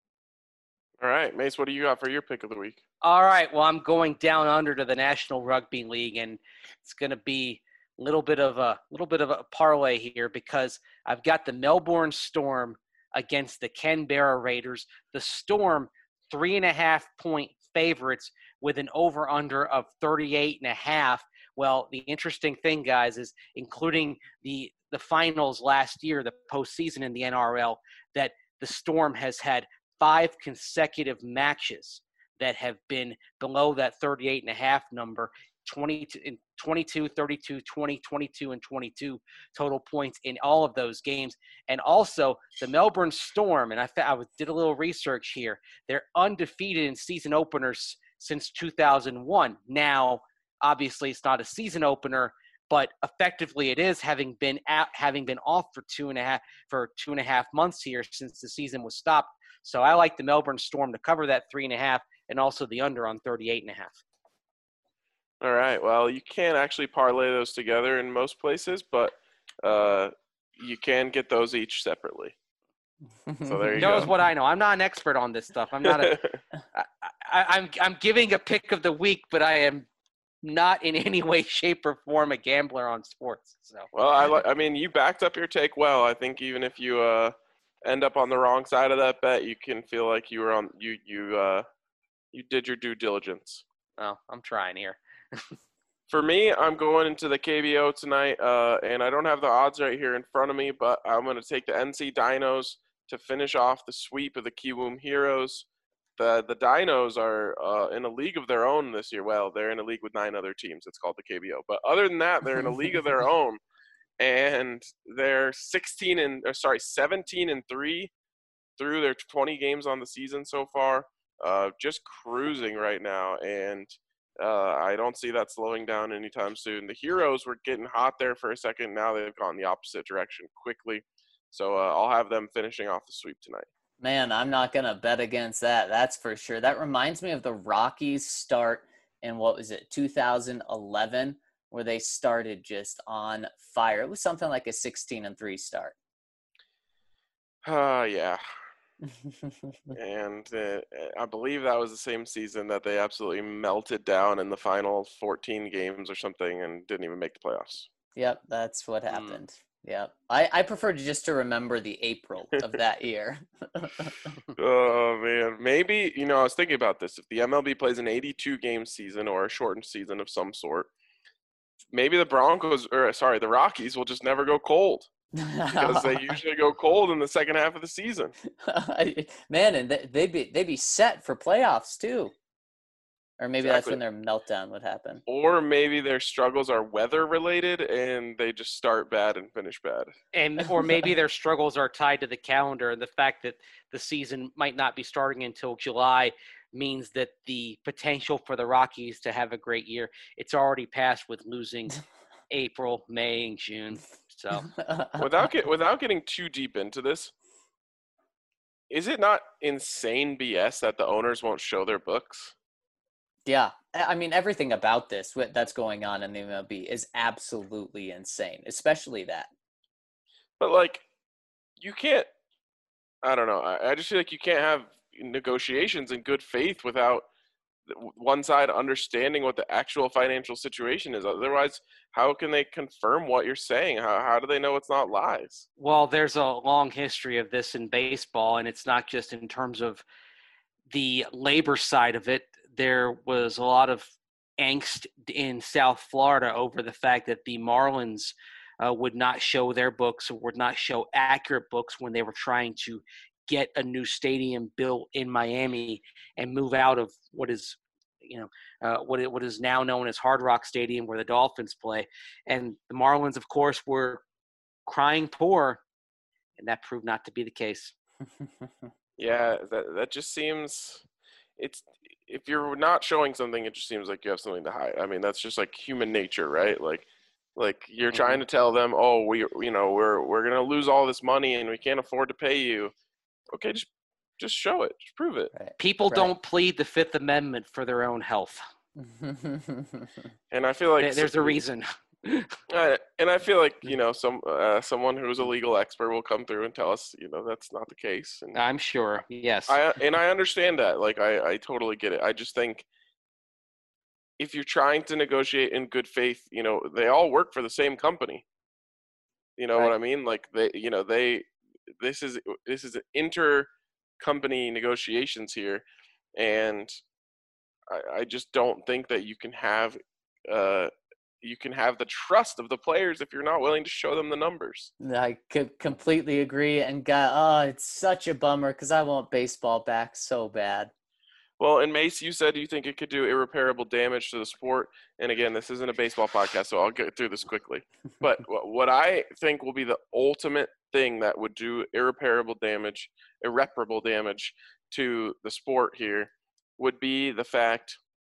All right, Mace, what do you got for your pick of the week? All right, well, I'm going down under to the National Rugby League, and it's going to be a little bit of a little bit of a parlay here because I've got the Melbourne Storm against the Canberra Raiders. The Storm, three and a half point favorites with an over-under of thirty-eight and a half. Well, the interesting thing, guys, is including the the finals last year, the postseason in the N R L, that the Storm has had five consecutive matches that have been below that thirty-eight and a half number, twenty-two, thirty-two, twenty, twenty-two, and twenty-two total points in all of those games. And also the Melbourne Storm, and I, I did a little research here, they're undefeated in season openers since two thousand one. Now, obviously it's not a season opener, but effectively it is, having been out, having been off for two and a half for two and a half months here since the season was stopped. So I like the Melbourne Storm to cover that three and a half, and also the under on thirty-eight and a half. All right. Well, you can't actually parlay those together in most places, but uh, you can get those each separately. So there you Knows go. what I know. I'm not an expert on this stuff. I'm not a. I, I, I'm I'm giving a pick of the week, but I am not in any way, shape, or form a gambler on sports. So. Well, I li- I mean, you backed up your take well. I think even if you uh, end up on the wrong side of that bet, you can feel like you were on you you uh, you did your due diligence. Well, I'm trying here. For me, I'm going into the K B O tonight, uh, and I don't have the odds right here in front of me, but I'm going to take the N C Dinos to finish off the sweep of the Kiwoom Heroes. The the Dinos are uh, in a league of their own this year. Well, they're in a league with nine other teams. It's called the K B O. But other than that, they're in a league of their own, and they're sixteen and or sorry, seventeen and three through their twenty games on the season so far. Uh, just cruising right now, and uh, I don't see that slowing down anytime soon. The Heroes were getting hot there for a second. Now they've gone the opposite direction quickly. So uh, I'll have them finishing off the sweep tonight. Man, I'm not going to bet against that. That's for sure. That reminds me of the Rockies start in, what was it, two thousand eleven, where they started just on fire. It was something like a sixteen and three start. Uh, yeah. And uh, I believe that was the same season that they absolutely melted down in the final fourteen games or something and didn't even make the playoffs. Yep, that's what happened. Mm. Yep. I, I prefer just to remember the April of that year. Oh, man. Maybe, you know, I was thinking about this. If the M L B plays an eighty-two game season or a shortened season of some sort, maybe the Broncos, or sorry, the Rockies will just never go cold. Because they usually go cold in the second half of the season. Man, and they'd be they'd be set for playoffs too. Or maybe exactly. That's when their meltdown would happen. Or maybe their struggles are weather related and they just start bad and finish bad. And or maybe their struggles are tied to the calendar, and the fact that the season might not be starting until July means that the potential for the Rockies to have a great year, it's already passed with losing April, May, and June. So without get, without getting too deep into this, is it not insane B S that the owners won't show their books? Yeah, I mean, everything about this that's going on in the M L B is absolutely insane, especially that. But, like, you can't – I don't know. I, I just feel like you can't have negotiations in good faith without one side understanding what the actual financial situation is. Otherwise, how can they confirm what you're saying? How, how do they know it's not lies? Well, there's a long history of this in baseball, and it's not just in terms of the labor side of it. There was a lot of angst in South Florida over the fact that the Marlins uh, would not show their books or would not show accurate books when they were trying to get a new stadium built in Miami and move out of what is, you know, uh, what it, what is now known as Hard Rock Stadium, where the Dolphins play. And the Marlins, of course, were crying poor, and that proved not to be the case. Yeah, that that just seems it's if you're not showing something, it just seems like you have something to hide. I mean, that's just like human nature, right? Like like you're mm-hmm. trying to tell them, "Oh, we you know, we're we're going to lose all this money and we can't afford to pay you." Okay, just just show it. Just prove it. Right. People right. don't plead the Fifth Amendment for their own health. And I feel like there's a reason. Uh, and I feel like, you know, some uh, someone who's a legal expert will come through and tell us, you know, that's not the case. And I'm sure. Yes. I and I understand that. Like, I, I totally get it. I just think if you're trying to negotiate in good faith, you know, they all work for the same company. You know right. what I mean? Like, they, you know, they, this is, this is inter-company negotiations here. And I, I just don't think that you can have, uh, you can have the trust of the players if you're not willing to show them the numbers. I could completely agree. And God, oh, it's such a bummer because I want baseball back so bad. Well, and Mace, you said you think it could do irreparable damage to the sport. And again, this isn't a baseball podcast, so I'll get through this quickly. But what I think will be the ultimate thing that would do irreparable damage, irreparable damage to the sport here would be the fact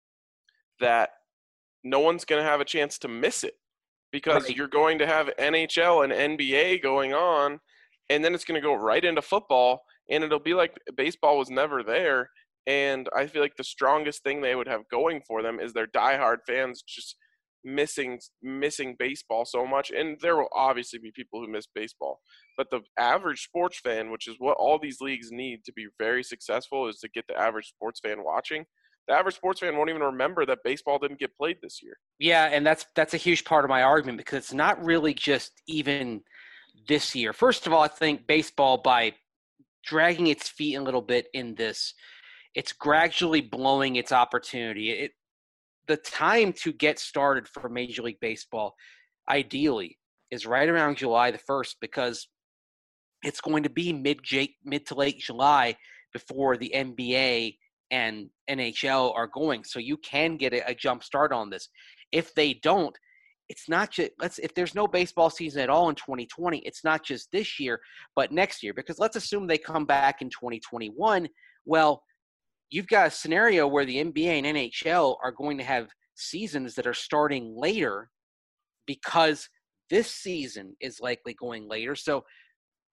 that no one's going to have a chance to miss it because right. you're going to have N H L and N B A going on, and then it's going to go right into football, and it'll be like baseball was never there. And I feel like the strongest thing they would have going for them is their diehard fans just missing missing baseball so much. And there will obviously be people who miss baseball. But the average sports fan, which is what all these leagues need to be very successful, is to get the average sports fan watching. The average sports fan won't even remember that baseball didn't get played this year. Yeah, and that's that's a huge part of my argument because it's not really just even this year. First of all, I think baseball, by dragging its feet a little bit in this, it's gradually blowing its opportunity. It, the time to get started for Major League Baseball, ideally, is right around July the first because it's going to be mid mid to late July before the N B A and N H L are going. So you can get a, a jump start on this. If they don't, it's not just let's if there's no baseball season at all in twenty twenty, it's not just this year, but next year. Because let's assume they come back in twenty twenty-one. Well, you've got a scenario where the N B A and N H L are going to have seasons that are starting later because this season is likely going later. So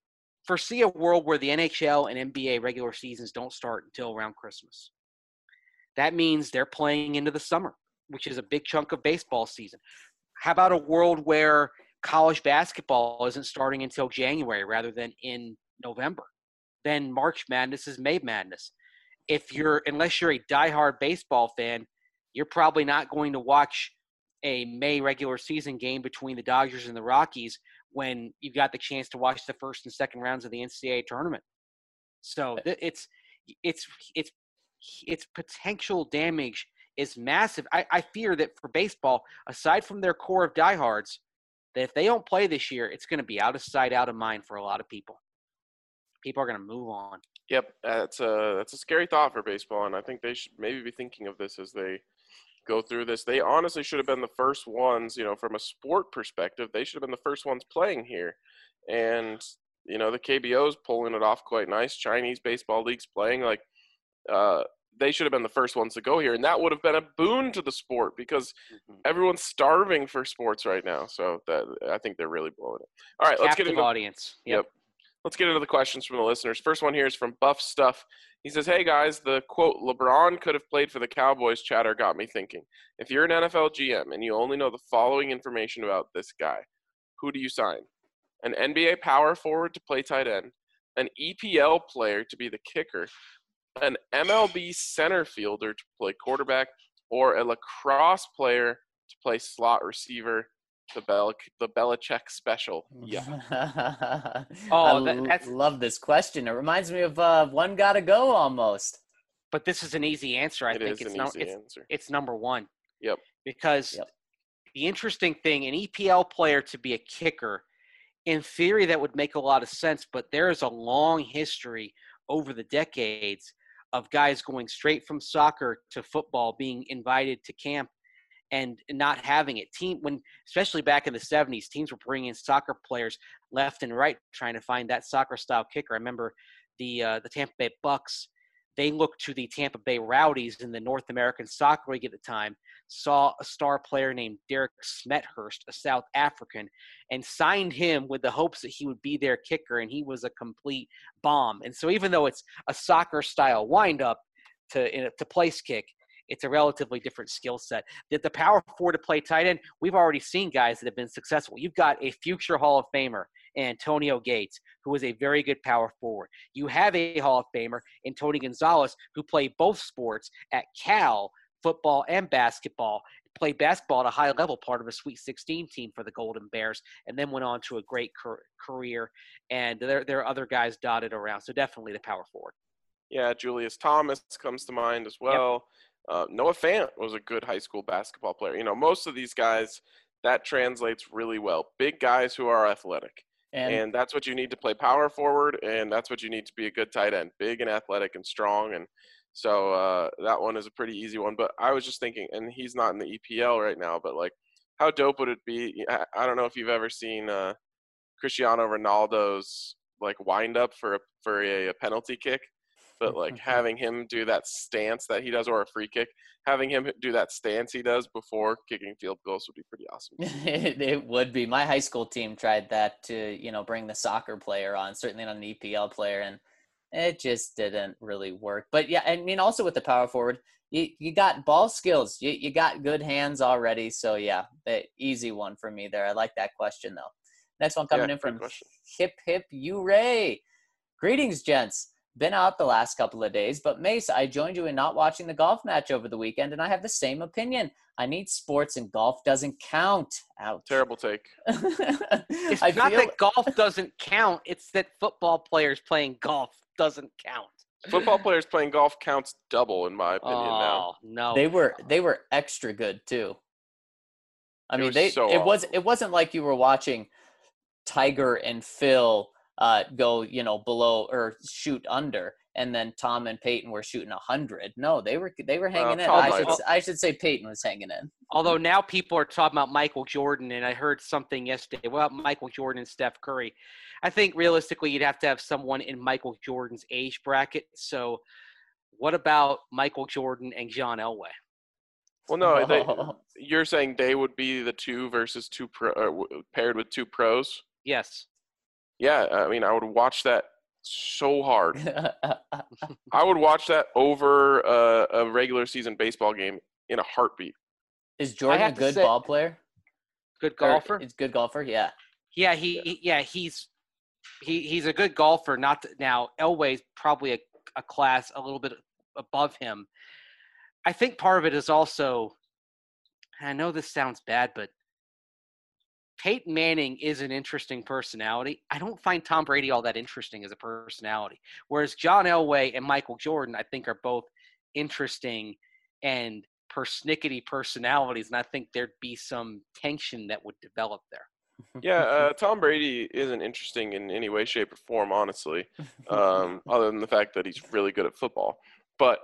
foresee a world where the N H L and N B A regular seasons don't start until around Christmas. That means they're playing into the summer, which is a big chunk of baseball season. How about a world where college basketball isn't starting until January rather than in November? Then March Madness is May Madness. If you're, unless you're a diehard baseball fan, you're probably not going to watch a May regular season game between the Dodgers and the Rockies when you've got the chance to watch the first and second rounds of the N C double A tournament. So it's it's it's its potential damage is massive. I, I fear that for baseball, aside from their core of diehards, that if they don't play this year, it's going to be out of sight, out of mind for a lot of people. People are going to move on. Yep, that's a that's a scary thought for baseball, and I think they should maybe be thinking of this as they go through this. They honestly should have been the first ones, you know, from a sport perspective, they should have been the first ones playing here. And, you know, the K B O's pulling it off quite nice. Chinese baseball leagues playing, like, uh, they should have been the first ones to go here. And that would have been a boon to the sport because mm-hmm. everyone's starving for sports right now. So that I think they're really blowing it. All right, let's Captive get into audience. Yep. yep. Let's get into the questions from the listeners. First one here is from Buff Stuff. He says, hey, guys, the, quote, LeBron could have played for the Cowboys chatter got me thinking. If you're an N F L G M and you only know the following information about this guy, who do you sign? An N B A power forward to play tight end, an E P L player to be the kicker, an M L B center fielder to play quarterback, or a lacrosse player to play slot receiver? The Bel the Belichick special. Yeah. oh, that, that's I love this question. It reminds me of uh, One Gotta Go almost. But this is an easy answer. I it think is it's an no, easy it's, answer. It's number one. Yep. Because yep. the interesting thing, an E P L player to be a kicker, in theory, that would make a lot of sense. But there is a long history over the decades of guys going straight from soccer to football, being invited to camp and not having it. Team when, especially back in the seventies, teams were bringing in soccer players left and right, trying to find that soccer style kicker. I remember the uh, the Tampa Bay Bucks. They looked to the Tampa Bay Rowdies in the North American Soccer League at the time, saw a star player named Derek Smethurst, a South African, and signed him with the hopes that he would be their kicker, and he was a complete bomb. And so even though it's a soccer style windup to in a, to place kick, it's a relatively different skill set. That the power forward to play tight end, we've already seen guys that have been successful. You've got a future Hall of Famer, Antonio Gates, who is a very good power forward. You have a Hall of Famer in Tony Gonzalez, who played both sports at Cal, football and basketball, played basketball at a high level, part of a Sweet sixteen team for the Golden Bears, and then went on to a great career. And there, there are other guys dotted around. So definitely the power forward. Yeah, Julius Thomas comes to mind as well. Yep. Uh, Noah Fant was a good high school basketball player. You know, most of these guys, that translates really well. Big guys who are athletic. And, and that's what you need to play power forward, and that's what you need to be a good tight end. Big and athletic and strong. And so uh, that one is a pretty easy one. But I was just thinking, and he's not in the E P L right now, but, like, how dope would it be? I don't know if you've ever seen uh, Cristiano Ronaldo's, like, wind-up for a, for a, a penalty kick. But, like, having him do that stance that he does, or a free kick, having him do that stance he does before kicking field goals would be pretty awesome. it, it would be. My high school team tried that to, you know, bring the soccer player on, certainly not an E P L player, and it just didn't really work. But, yeah, I mean, also with the power forward, you, you got ball skills. You, you got good hands already. So, yeah, the easy one for me there. I like that question, though. Next one coming yeah, in from question. Hip Hip U-Ray. Greetings, gents. Been out the last couple of days, but Mace, I joined you in not watching the golf match over the weekend, and I have the same opinion. I need sports, and golf doesn't count. Ouch. Terrible take. It's I not feel... that golf doesn't count. It's that football players playing golf doesn't count. Football players playing golf counts double, in my opinion. Oh, now, no. They were they were extra good too. I it mean, was they so it awesome. was it wasn't like you were watching Tiger and Phil uh, go, you know, below or shoot under, and then Tom and Peyton were shooting a hundred. No, they were they were hanging uh, in. I should I should say Peyton was hanging in. Although now people are talking about Michael Jordan, and I heard something yesterday. Well, Michael Jordan and Steph Curry. I think realistically, you'd have to have someone in Michael Jordan's age bracket. So, what about Michael Jordan and John Elway? Well, no, they, you're saying they would be the two versus two pro, uh, paired with two pros. Yes. Yeah, I mean, I would watch that so hard. I would watch that over uh, a regular season baseball game in a heartbeat. Is Jordan a have to good say- ball player? Good Or golfer. Is good golfer? Yeah. Yeah, he yeah he's he he's a good golfer. Not to, now Elway's probably a, a class a little bit above him. I think part of it is also, and I know this sounds bad, but Peyton Manning is an interesting personality. I don't find Tom Brady all that interesting as a personality. Whereas John Elway and Michael Jordan, I think, are both interesting and persnickety personalities, and I think there'd be some tension that would develop there. Yeah, uh, Tom Brady isn't interesting in any way, shape, or form, honestly, um, other than the fact that he's really good at football. But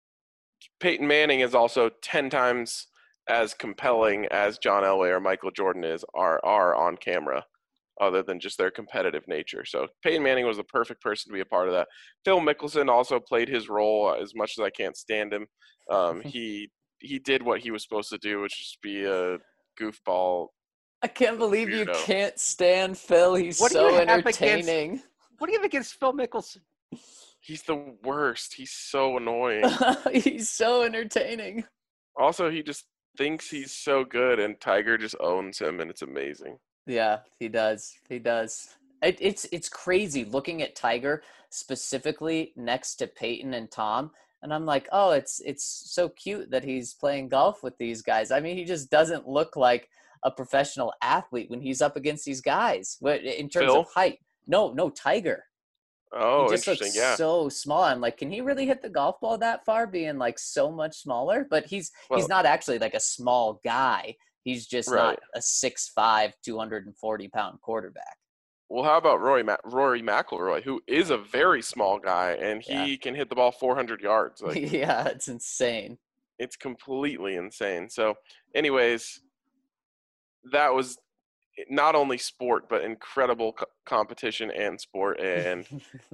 Peyton Manning is also ten times as compelling as John Elway or Michael Jordan is are are on camera, other than just their competitive nature. So Peyton Manning was the perfect person to be a part of that. Phil Mickelson also played his role. As much as I can't stand him, um, he he did what he was supposed to do, which is be a goofball. I can't believe you Weirdo. can't stand Phil. He's What do you so have against- entertaining. What do you have against Phil Mickelson? He's the worst. He's so annoying. He's so entertaining. Also, he just thinks he's so good, and Tiger just owns him, and it's amazing. Yeah, he does. He does. It, it's it's crazy looking at Tiger specifically next to Peyton and Tom, and I'm like, oh, it's it's so cute that he's playing golf with these guys. I mean, he just doesn't look like a professional athlete when he's up against these guys. But in terms Phil? of height, no, no, Tiger. Oh, He just interesting. looks Yeah. so small. I'm like, can he really hit the golf ball that far, being like so much smaller? But he's Well- he's not actually like a small guy. He's just Right. not a six five, two hundred forty pound quarterback. Well, how about Rory Ma- Rory McIlroy, who is a very small guy, and he Yeah. can hit the ball four hundred yards. Like, Yeah, it's insane. it's completely insane. So, anyways, that was not only sport, but incredible co- competition and sport. And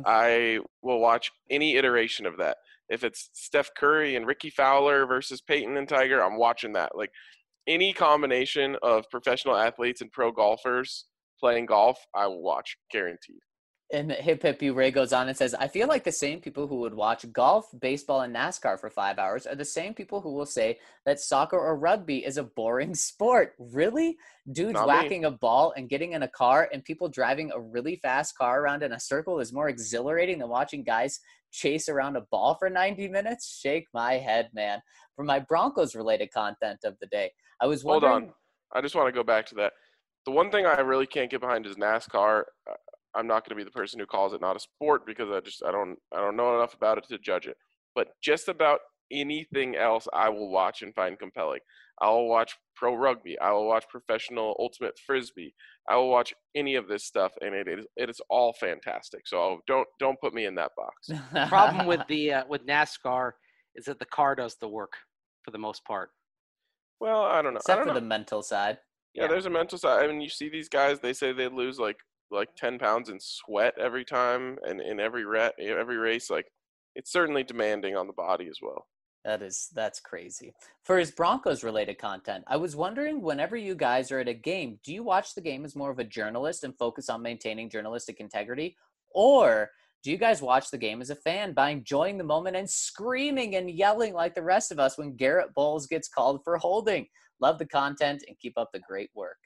I will watch any iteration of that. If it's Steph Curry and Ricky Fowler versus Peyton and Tiger, I'm watching that. Like, any combination of professional athletes and pro golfers playing golf, I will watch, guaranteed. And Hip Hip You Ray goes on and says, I feel like the same people who would watch golf, baseball, and NASCAR for five hours are the same people who will say that soccer or rugby is a boring sport. Really? Dudes Not me. whacking a ball and getting in a car and people driving a really fast car around in a circle is more exhilarating than watching guys chase around a ball for ninety minutes? Shake my head, man. For my Broncos-related content of the day, I was Hold wondering... on. I just want to go back to that. The one thing I really can't get behind is NASCAR. Uh, I'm not going to be the person who calls it not a sport because I just I don't I don't know enough about it to judge it. But just about anything else I will watch and find compelling. I will watch pro rugby. I will watch professional ultimate frisbee. I will watch any of this stuff, and it is it is all fantastic. So don't don't put me in that box. Problem with the uh, with NASCAR is that the car does the work for the most part. Well, I don't know. I Except don't for know. the mental side. Yeah, Yeah. there's a mental side. I mean, you see these guys. They say they lose like like ten pounds in sweat every time, and in every ra- every race. Like, it's certainly demanding on the body as well. That is, that's crazy. For his Broncos related content, I was wondering, whenever you guys are at a game, do you watch the game as more of a journalist and focus on maintaining journalistic integrity? Or do you guys watch the game as a fan by enjoying the moment and screaming and yelling like the rest of us when Garrett Bowles gets called for holding? Love the content and keep up the great work.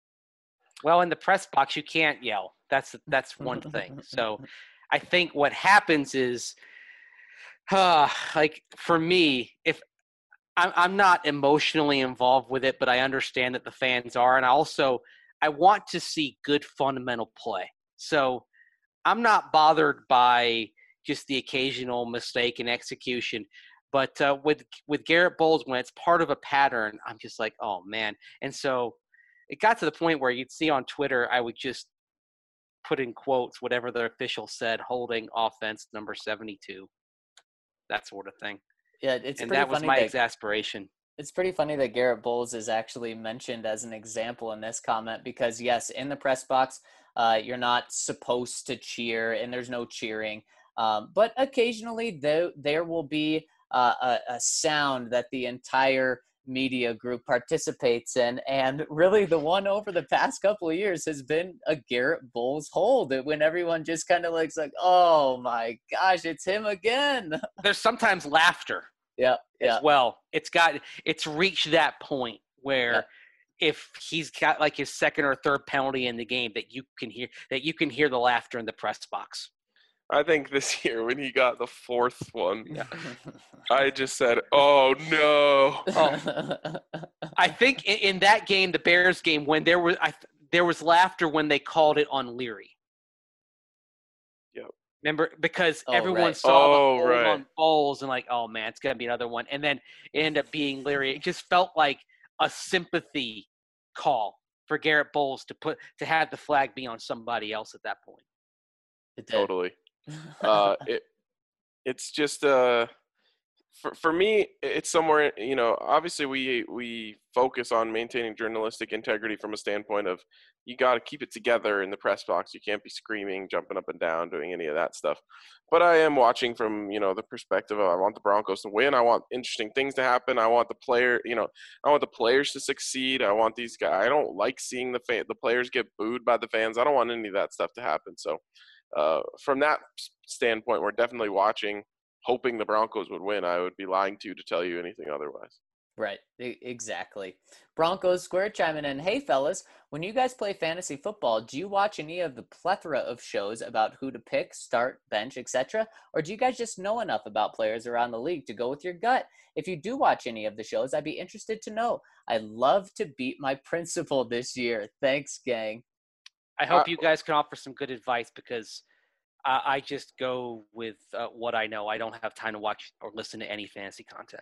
Well, in the press box, you can't yell. That's that's one thing. So I think what happens is, uh, like for me, if I'm, I'm not emotionally involved with it, but I understand that the fans are. And I also, I want to see good fundamental play. So I'm not bothered by just the occasional mistake in execution. But uh, with with Garrett Bowles, when it's part of a pattern, I'm just like, oh, man. And so it got to the point where you'd see on Twitter, I would just put in quotes whatever the official said, holding offense number seventy-two, that sort of thing. Yeah, it's And pretty that was funny my that, exasperation. It's pretty funny that Garrett Bowles is actually mentioned as an example in this comment because, yes, in the press box, uh, you're not supposed to cheer and there's no cheering. Um, but occasionally there, there will be uh, a, a sound that the entire media group participates in. And really the one over the past couple of years has been a Garrett Bowles hold, when everyone just kind of looks like, oh my gosh, it's him again. There's sometimes laughter Yeah, yeah, as well. It's got it's reached that point where yeah. if he's got like his second or third penalty in the game, that you can hear that you can hear the laughter in the press box. I think this year when he got the fourth one, I just said, "Oh no!" Oh. I think in, in that game, the Bears game, when there was I, there was laughter when they called it on Leary. Yep. Remember, because Oh, everyone right. saw Oh, the hold right. on Bowles and like, oh man, it's gonna be another one, and then it ended up being Leary. It just felt like a sympathy call for Garrett Bowles to put to have the flag be on somebody else at that point. It did. Totally. Uh, it it's just uh, for for me, it's somewhere. You know, obviously we we focus on maintaining journalistic integrity from a standpoint of you got to keep it together in the press box. You can't be screaming, jumping up and down, doing any of that stuff. But I am watching from, you know, the perspective of I want the Broncos to win. I want interesting things to happen. I want the player, you know, I want the players to succeed. I want these guys. I don't like seeing the fan, the players get booed by the fans. I don't want any of that stuff to happen. So uh, from that standpoint, we're definitely watching, hoping the Broncos would win. I would be lying to you to tell you anything otherwise. Right, e- exactly. Broncos Square chiming in, hey fellas, when you guys play fantasy football, do you watch any of the plethora of shows about who to pick, start, bench, et cetera? Or do you guys just know enough about players around the league to go with your gut? If you do watch any of the shows, I'd be interested to know. I'd love to beat my principal this year. Thanks, gang. I hope Uh, you guys can offer some good advice, because I, I just go with uh, what I know. I don't have time to watch or listen to any fantasy content.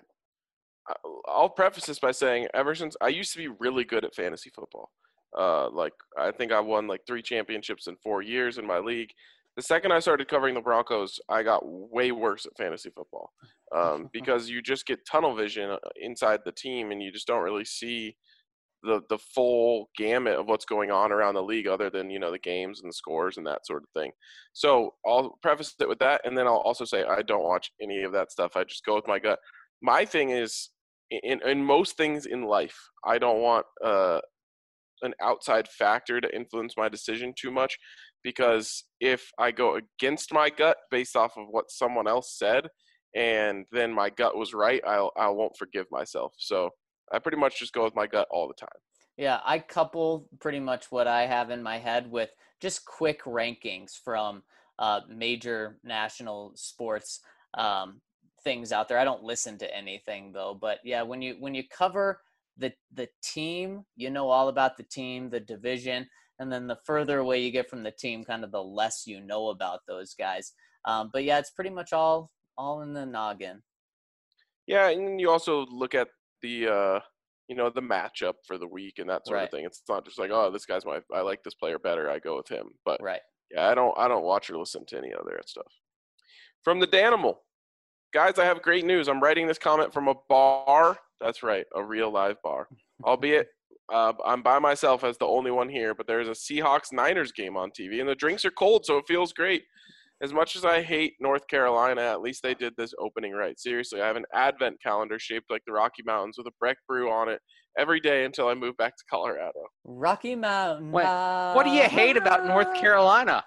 I'll preface this by saying, ever since I used to be really good at fantasy football, uh, like I think I won like three championships in four years in my league. The second I started covering the Broncos, I got way worse at fantasy football um, because you just get tunnel vision inside the team, and you just don't really see the the full gamut of what's going on around the league, other than, you know, the games and the scores and that sort of thing. So I'll preface it with that, and then I'll also say I don't watch any of that stuff. I just go with my gut. My thing is, in, in most things in life, I don't want uh, an outside factor to influence my decision too much, because if I go against my gut based off of what someone else said, and then my gut was right, I'll, I won't forgive myself. So I pretty much just go with my gut all the time. Yeah, I couple pretty much what I have in my head with just quick rankings from uh, major national sports um, things out there. I don't listen to anything though, but yeah, when you when you cover the the team, you know all about the team, the division, and then the further away you get from the team, kind of the less you know about those guys. Um, but yeah, it's pretty much all all in the noggin. Yeah, and you also look at the uh, you know, the matchup for the week and that sort Right. of thing. It's not just like, oh, this guy's my I like this player better, I go with him. But Right. yeah, I don't I don't watch or listen to any other stuff. From the Danimal. Guys, I have great news. I'm writing this comment from a bar. That's right, a real live bar. Albeit uh, I'm by myself as the only one here, but there's a Seahawks-Niners game on T V, and the drinks are cold, so it feels great. As much as I hate North Carolina, at least they did this opening right. Seriously, I have an advent calendar shaped like the Rocky Mountains with a Breck brew on it every day until I move back to Colorado. Rocky Mountain. Wait, what do you hate about North Carolina?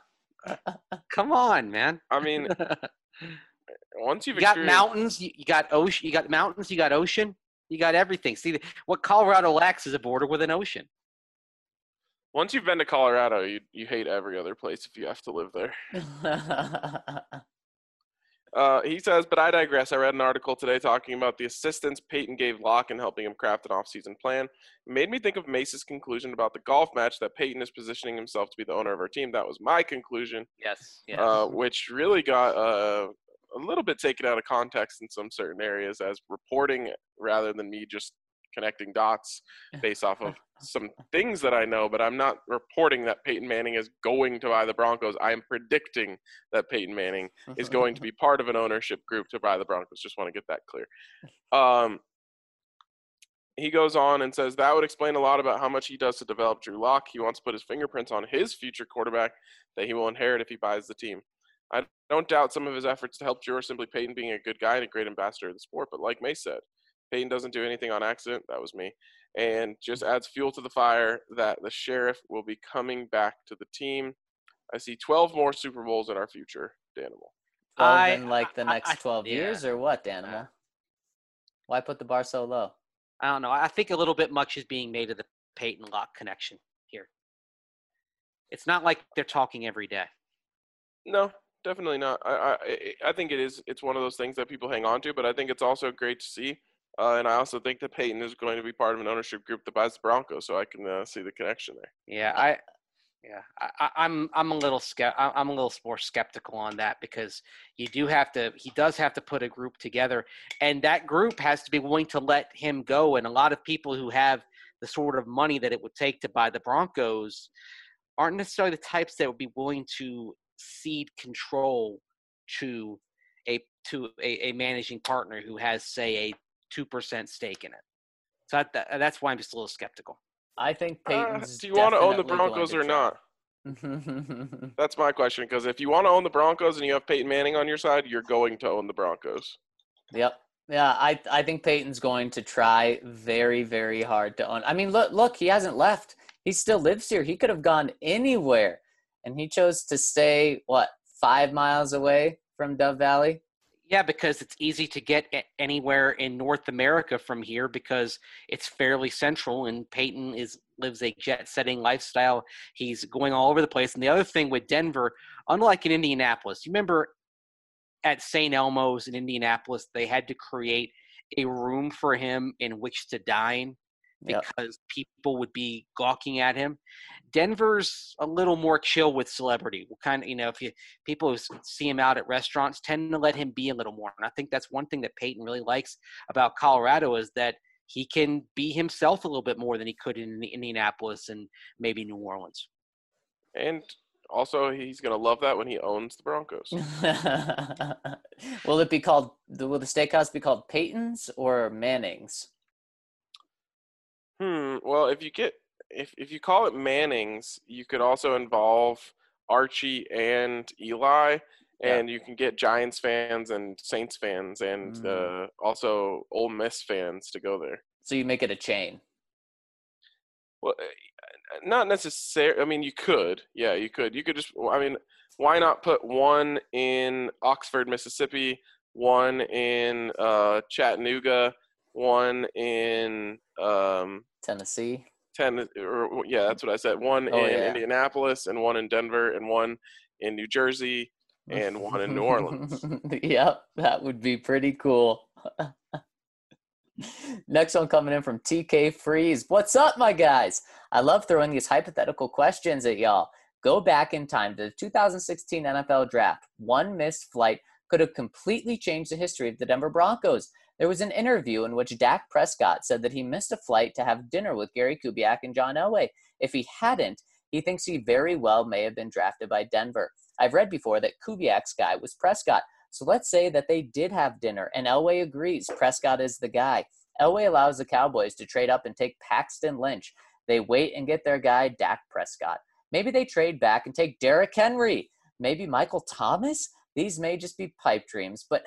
Come on, man. I mean, once you've You got experienced- mountains, you, you got ocean, you got mountains, you got ocean, you got everything. See, what Colorado lacks is a border with an ocean. once you've been to Colorado, you you hate every other place if you have to live there. Uh, he says, but I digress. I read an article today talking about the assistance Peyton gave Locke in helping him craft an off-season plan. It made me think of Mace's conclusion about the golf match, that Peyton is positioning himself to be the owner of our team. That was my conclusion, Yes, yes. uh, which really got uh, a little bit taken out of context in some certain areas as reporting rather than me just connecting dots based off of some things that I know, but I'm not reporting that Peyton Manning is going to buy the Broncos. I am predicting that Peyton Manning is going to be part of an ownership group to buy the Broncos. Just want to get that clear. Um, he goes on and says that would explain a lot about how much he does to develop Drew Lock. He wants to put his fingerprints on his future quarterback that he will inherit if he buys the team. I don't doubt some of his efforts to help Drew are simply Peyton being a good guy and a great ambassador of the sport, but like Mace said, Peyton doesn't do anything on accident. That was me. And just adds fuel to the fire that the Sheriff will be coming back to the team. I see twelve more Super Bowls in our future, Danimal. twelve I- in like the I- next I- twelve yeah. years or what, Danimal? Why put the bar so low? I don't know. I think a little bit much is being made of the Peyton Locke connection here. It's not like they're talking every day. No, definitely not. I, I I think it is. It's one of those things that people hang on to, but I think it's also great to see. Uh, and I also think that Peyton is going to be part of an ownership group that buys the Broncos, so I can uh, see the connection there. Yeah, I, yeah, I, I- I'm I'm a little skept I'm a little more skeptical on that because you do have to. He does have to put a group together, and that group has to be willing to let him go. And a lot of people who have the sort of money that it would take to buy the Broncos aren't necessarily the types that would be willing to cede control to a to a, a managing partner who has, say, a two percent stake in it. So that, that's why I'm just a little skeptical. I think Uh, Peyton's. do you want to own the definitely going Broncos to or try. not? That's my question, because if you want to own the Broncos and you have Peyton Manning on your side, you're going to own the Broncos. Yep. Yeah, I I think Peyton's going to try very, very hard to own. I mean, look, look, he hasn't left. He still lives here. He could have gone anywhere, and he chose to stay, what, five miles away from Dove Valley? Yeah, because it's easy to get a- anywhere in North America from here because it's fairly central, and Peyton is lives a jet-setting lifestyle. He's going all over the place. And the other thing with Denver, unlike in Indianapolis, you remember at Saint Elmo's in Indianapolis, they had to create a room for him in which to dine Yep. because people would be gawking at him. Denver's a little more chill with celebrity. Kind of, you know, if you people who see him out at restaurants tend to let him be a little more. And I think that's one thing that Peyton really likes about Colorado is that he can be himself a little bit more than he could in Indianapolis and maybe New Orleans. And also, he's going to love that when he owns the Broncos. Will it be called, will the steakhouse be called Peyton's or Manning's? Hmm. Well, if you get if if you call it Manning's, you could also involve Archie and Eli, and you can get Giants fans and Saints fans and Mm. uh, also Ole Miss fans to go there. So you make it a chain. Well, uh, not necessarily. I mean, you could. Yeah, you could. You could just. I mean, why not put one in Oxford, Mississippi, one in uh, Chattanooga, one in um, Tennessee. ten, or yeah, that's what I said. One Oh, in yeah. Indianapolis, and one in Denver, and one in New Jersey, and one in New Orleans. Yep, that would be pretty cool. Next one coming in from T K Freeze. What's up, my guys? I love throwing these hypothetical questions at y'all. Go back in time to the two thousand sixteen N F L Draft. One missed flight could have completely changed the history of the Denver Broncos. There was an interview in which Dak Prescott said that he missed a flight to have dinner with Gary Kubiak and John Elway. If he hadn't, he thinks he very well may have been drafted by Denver. I've read before that Kubiak's guy was Prescott. So let's say that they did have dinner and Elway agrees Prescott is the guy. Elway allows the Cowboys to trade up and take Paxton Lynch. They wait and get their guy, Dak Prescott. Maybe they trade back and take Derrick Henry. Maybe Michael Thomas? These may just be pipe dreams, but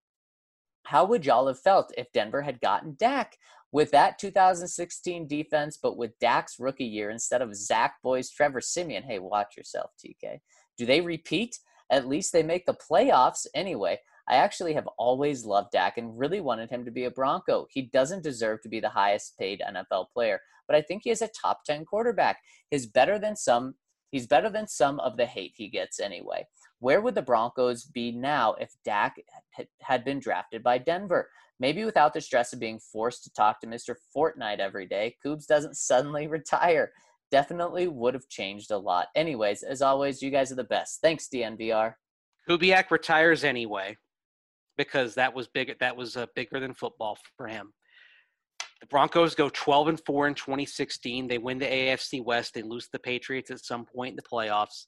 how would y'all have felt if Denver had gotten Dak? With that two thousand sixteen defense, but with Dak's rookie year instead of Zach Boyce, Trevor Siemian. Hey, watch yourself, T K. Do they repeat? At least they make the playoffs anyway. I actually have always loved Dak and really wanted him to be a Bronco. He doesn't deserve to be the highest paid N F L player, but I think he is a top ten quarterback. He's better than some, he's better than some of the hate he gets anyway. Where would the Broncos be now if Dak had been drafted by Denver? Maybe without the stress of being forced to talk to Mister Fortnite every day, Coobs doesn't suddenly retire. Definitely would have changed a lot. Anyways, as always, you guys are the best. Thanks, D N V R. Kubiak retires anyway because that was big. That was uh, bigger than football for him. The Broncos go twelve and four in twenty sixteen. They win the A F C West. They lose the Patriots at some point in the playoffs.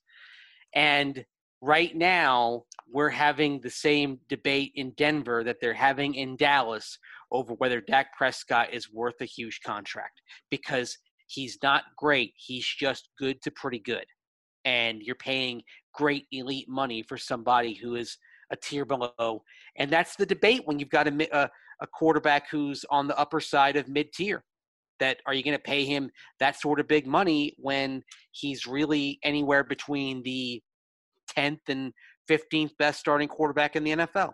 And right now, we're having the same debate in Denver that they're having in Dallas over whether Dak Prescott is worth a huge contract because he's not great. He's just good to pretty good. And you're paying great elite money for somebody who is a tier below. And that's the debate when you've got a, a, a quarterback who's on the upper side of mid-tier. That are you going to pay him that sort of big money when he's really anywhere between the tenth and fifteenth best starting quarterback in the N F L?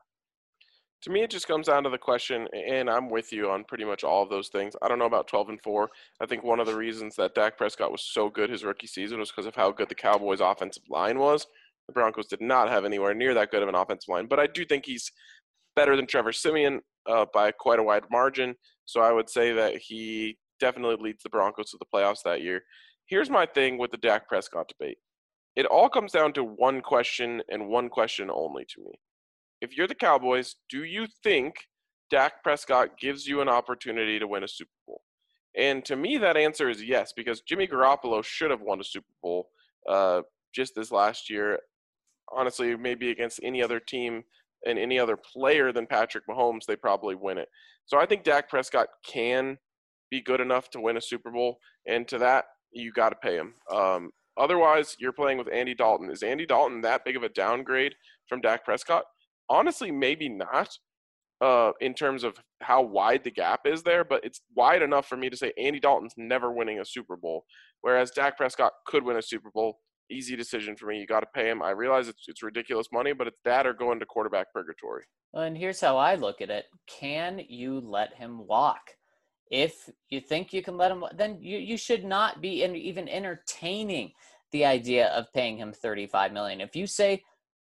To me, it just comes down to the question, and I'm with you on pretty much all of those things. I don't know about twelve and four. I think one of the reasons that Dak Prescott was so good his rookie season was because of how good the Cowboys' offensive line was. The Broncos did not have anywhere near that good of an offensive line, but I do think he's better than Trevor Siemian uh, by quite a wide margin. So I would say that he definitely leads the Broncos to the playoffs that year. Here's my thing with the Dak Prescott debate. It all comes down to one question and one question only to me. If you're the Cowboys, do you think Dak Prescott gives you an opportunity to win a Super Bowl? And to me, that answer is yes, because Jimmy Garoppolo should have won a Super Bowl uh, just this last year. Honestly, maybe against any other team and any other player than Patrick Mahomes, they probably win it. So I think Dak Prescott can be good enough to win a Super Bowl, and to that, you got to pay him. Um, otherwise, you're playing with Andy Dalton. Is Andy Dalton that big of a downgrade from Dak Prescott? Honestly, maybe not uh, in terms of how wide the gap is there, but it's wide enough for me to say Andy Dalton's never winning a Super Bowl, whereas Dak Prescott could win a Super Bowl. Easy decision for me. You got to pay him. I realize it's it's ridiculous money, but it's that or going to quarterback purgatory. And here's how I look at it. Can you let him walk? If you think you can let him, then you, you should not be in, even entertaining the idea of paying him thirty-five million dollars. If you say,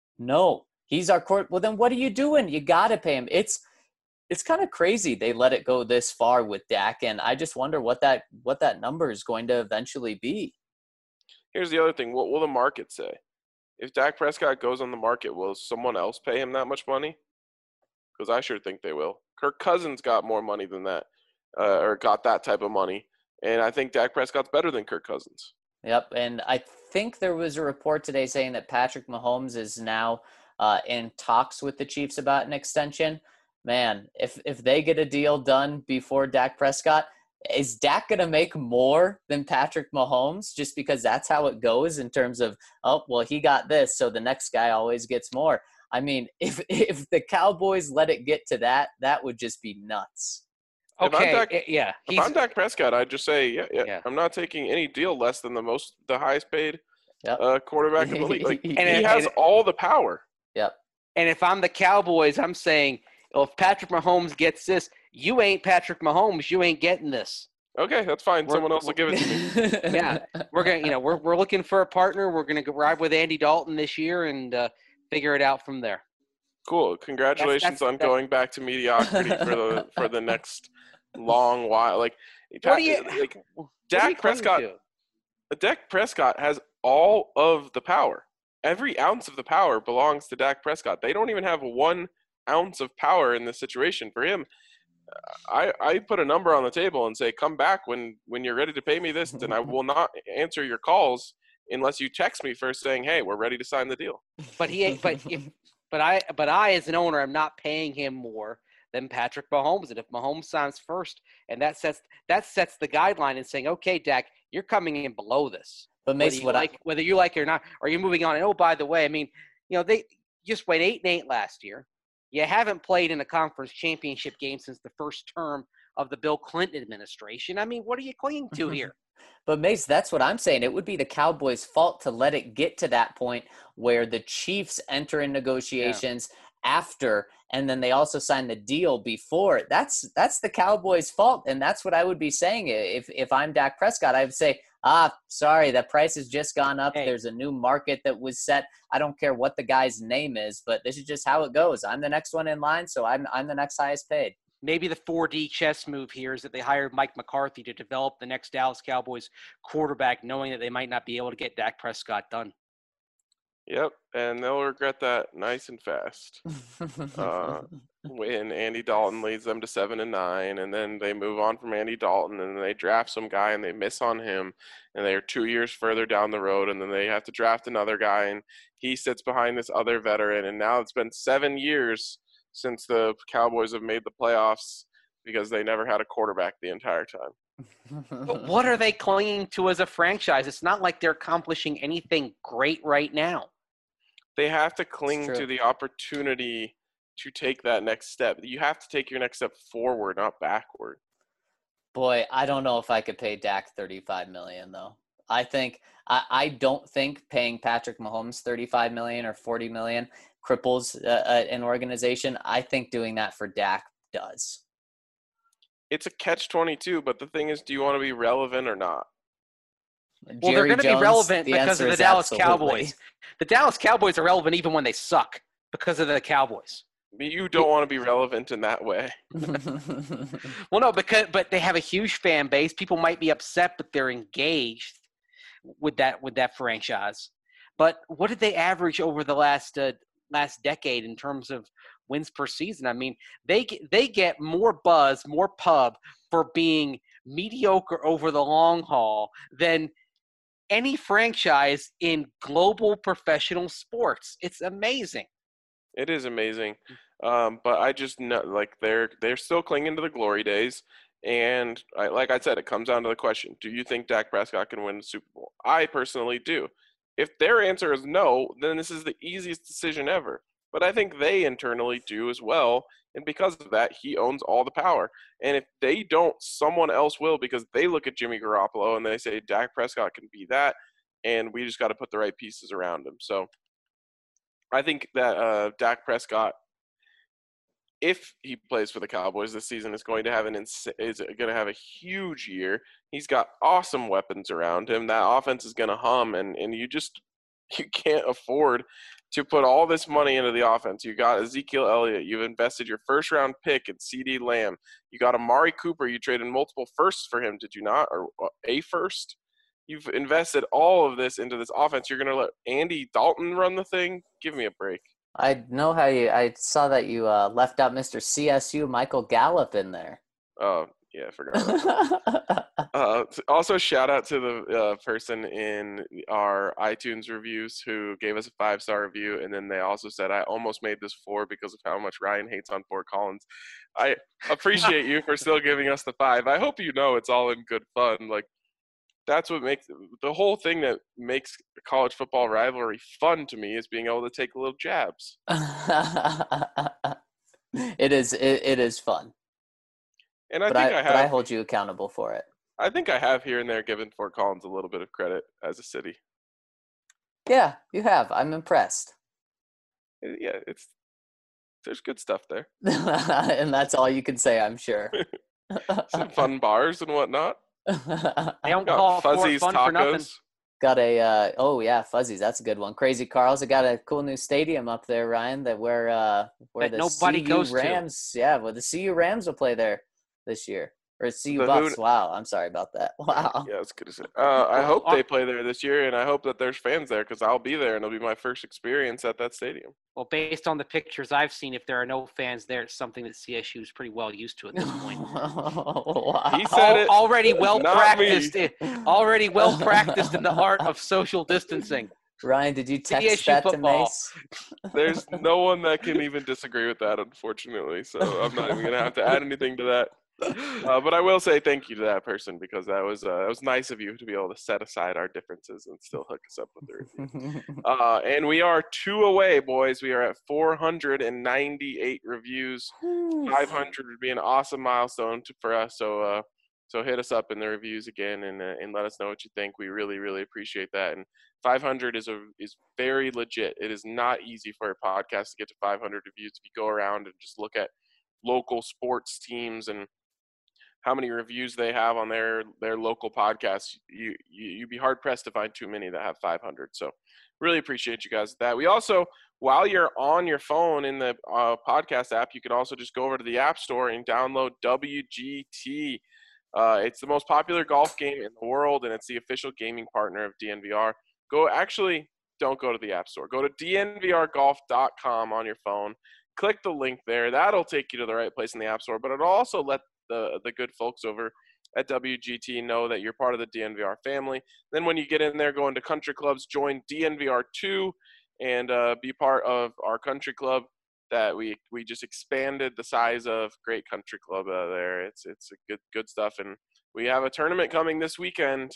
no, he's our court, well, then what are you doing? You got to pay him. It's it's kind of crazy they let it go this far with Dak, and I just wonder what that what that number is going to eventually be. Here's the other thing. What will the market say? If Dak Prescott goes on the market, will someone else pay him that much money? Because I sure think they will. Kirk Cousins got more money than that, uh, or got that type of money. And I think Dak Prescott's better than Kirk Cousins. Yep, and I think there was a report today saying that Patrick Mahomes is now uh, in talks with the Chiefs about an extension. Man, if if they get a deal done before Dak Prescott, is Dak going to make more than Patrick Mahomes just because that's how it goes in terms of, oh, well, he got this, so the next guy always gets more? I mean, if if the Cowboys let it get to that, that would just be nuts. If Okay, I'm Dak, eh, yeah. if he's- I'm Dak Prescott, I'd just say, yeah, yeah, Yeah. I'm not taking any deal less than the most, the highest paid Yep. uh, quarterback in the league. Like, And he it- has and it- all the power. Yep. And if I'm the Cowboys, I'm saying, well, if Patrick Mahomes gets this, you ain't Patrick Mahomes. You ain't getting this. Okay, that's fine. We're- Someone else will give it to me. Yeah. We're gonna, you know, we're we're looking for a partner. We're gonna go ride with Andy Dalton this year and uh, figure it out from there. Cool. Congratulations that's- on that's- going back to mediocrity for the for the next long while. Like, What do you? like what are you Dak clinging Prescott. to? Dak Prescott has all of the power. Every ounce of the power belongs to Dak Prescott. They don't even have one ounce of power in this situation. For him, I, I put a number on the table and say, come back when, when you're ready to pay me this, and I will not answer your calls unless you text me first saying, hey, we're ready to sign the deal. But he ain't. But if. But I. But I, as an owner, am not paying him more than Patrick Mahomes. And if Mahomes signs first, and that sets that sets the guideline and saying, okay, Dak, you're coming in below this. But Whether Mace, you what like, I, whether you like it or not, or you're moving on. And oh, by the way, I mean, you know, they just went eight and eight last year. You haven't played in a conference championship game since the first term of the Bill Clinton administration. I mean, what are you clinging to here? But Mace, that's what I'm saying. It would be the Cowboys' fault to let it get to that point where the Chiefs enter in negotiations after, and then they also sign the deal before. That's that's the Cowboys' fault, and that's what I would be saying if if I'm Dak Prescott. I would say, ah, sorry, the price has just gone up. Hey. There's a new market that was set. I don't care what the guy's name is, but this is just how it goes. I'm the next one in line, so I'm I'm the next highest paid. Maybe the four D chess move here is that they hired Mike McCarthy to develop the next Dallas Cowboys quarterback, knowing that they might not be able to get Dak Prescott done. Yep, and they'll regret that nice and fast. Uh, when Andy Dalton leads them to seven and nine, and then they move on from Andy Dalton, and then they draft some guy and they miss on him, and they're two years further down the road, and then they have to draft another guy, and he sits behind this other veteran, and now it's been seven years since the Cowboys have made the playoffs because they never had a quarterback the entire time. But what are they clinging to as a franchise? It's not like they're accomplishing anything great right now. They have to cling true. to the opportunity to take that next step. You have to take your next step forward, not backward. Boy, I don't know if I could pay Dak thirty-five million dollars, though. I think I, I don't think paying Patrick Mahomes thirty-five million dollars or forty million dollars cripples uh, an organization. I think doing that for Dak does. It's a catch twenty-two, but the thing is, do you want to be relevant or not? Well, Jerry they're going to be Jones, relevant the because of answer the is Dallas absolutely. Cowboys. The Dallas Cowboys are relevant even when they suck because of the Cowboys. You don't want to be relevant in that way. Well, no, because but they have a huge fan base. People might be upset, but they're engaged with that with that franchise. But what did they average over the last uh, last decade in terms of wins per season? I mean, they get, they get more buzz, more pub for being mediocre over the long haul than any franchise in global professional sports. It's amazing. It is amazing. Um, but I just know, like, they're they're still clinging to the glory days. And I, like I said, it comes down to the question, do you think Dak Prescott can win the Super Bowl? I personally do. If their answer is no, then this is the easiest decision ever. But I think they internally do as well. And because of that, he owns all the power. And if they don't, someone else will, because they look at Jimmy Garoppolo and they say Dak Prescott can be that. And we just got to put the right pieces around him. So I think that uh, Dak Prescott, if he plays for the Cowboys this season, is going to have an ins- is going to have a huge year. He's got awesome weapons around him. That offense is going to hum, and, and you just you can't afford to put all this money into the offense. You got Ezekiel Elliott. You've invested your first round pick in CeeDee Lamb. You got Amari Cooper. You traded multiple firsts for him, did you not? Or a first? You've invested all of this into this offense. You're going to let Andy Dalton run the thing? Give me a break. I know how you. I saw that you uh, left out Mister C S U Michael Gallup in there. Oh, yeah, I forgot about that. uh, also, shout out to the uh, person in our iTunes reviews who gave us a five-star review, and then they also said, I almost made this four because of how much Ryan hates on Fort Collins. I appreciate you for still giving us the five. I hope you know it's all in good fun. Like, that's what makes the whole thing that makes the college football rivalry fun to me is being able to take little jabs. It is. It, it is fun. And I but think I, I, have. But I hold you accountable for it. I think I have here and there given Fort Collins a little bit of credit as a city. Yeah, you have. I'm impressed. Yeah, it's there's good stuff there. And that's all you can say, I'm sure. Some fun bars and whatnot. They don't Got call Fuzzy's Fort fun for nothing. Tacos. Got a uh, oh yeah, Fuzzy's. That's a good one. Crazy Carl's. I got a cool new stadium up there, Ryan. That where uh where That the nobody C U goes to. Rams. Yeah, well the C U Rams will play there this year. Or C U The Buffs. who- Wow, I'm sorry about that. Wow. Yeah, it's good to say. Uh, I hope Well, they play there this year, and I hope that there's fans there because I'll be there, and it'll be my first experience at that stadium. Well, based on the pictures I've seen, if there are no fans there, it's something that C S U is pretty well used to at this point. Wow. He said Al- it. already well not practiced. me. In, already well practiced in the art of social distancing. Ryan, did you text C S U that football. to Mace? There's no one that can even disagree with that, unfortunately. So I'm not even gonna have to add anything to that. Uh, but I will say thank you to that person because that was uh, that was nice of you to be able to set aside our differences and still hook us up with the review. Uh, and we are two away, boys. We are at four hundred ninety-eight reviews. five hundred would be an awesome milestone to, for us. So uh, so hit us up in the reviews again and uh, and let us know what you think. We really really appreciate that. And five hundred is a is very legit. It is not easy for a podcast to get to five hundred reviews. If you go around and just look at local sports teams and how many reviews they have on their their local podcasts, you, you you'd be hard pressed to find too many that have five hundred. So really appreciate you guys with that. We also, while you're on your phone in the uh, podcast app, you could also just go over to the App Store and download W G T. Uh, it's the most popular golf game in the world, and it's the official gaming partner of D N V R. Go actually don't go to the App Store. Go to D N V R golf dot com on your phone. Click the link there. That'll take you to the right place in the App Store, but it'll also let the the good folks over at W G T know that you're part of the D N V R family. Then when you get in there, go into country clubs, join D N V R two, and uh, be part of our country club that we we just expanded the size of. Great country club uh, there. It's it's a good good stuff, and we have a tournament coming this weekend,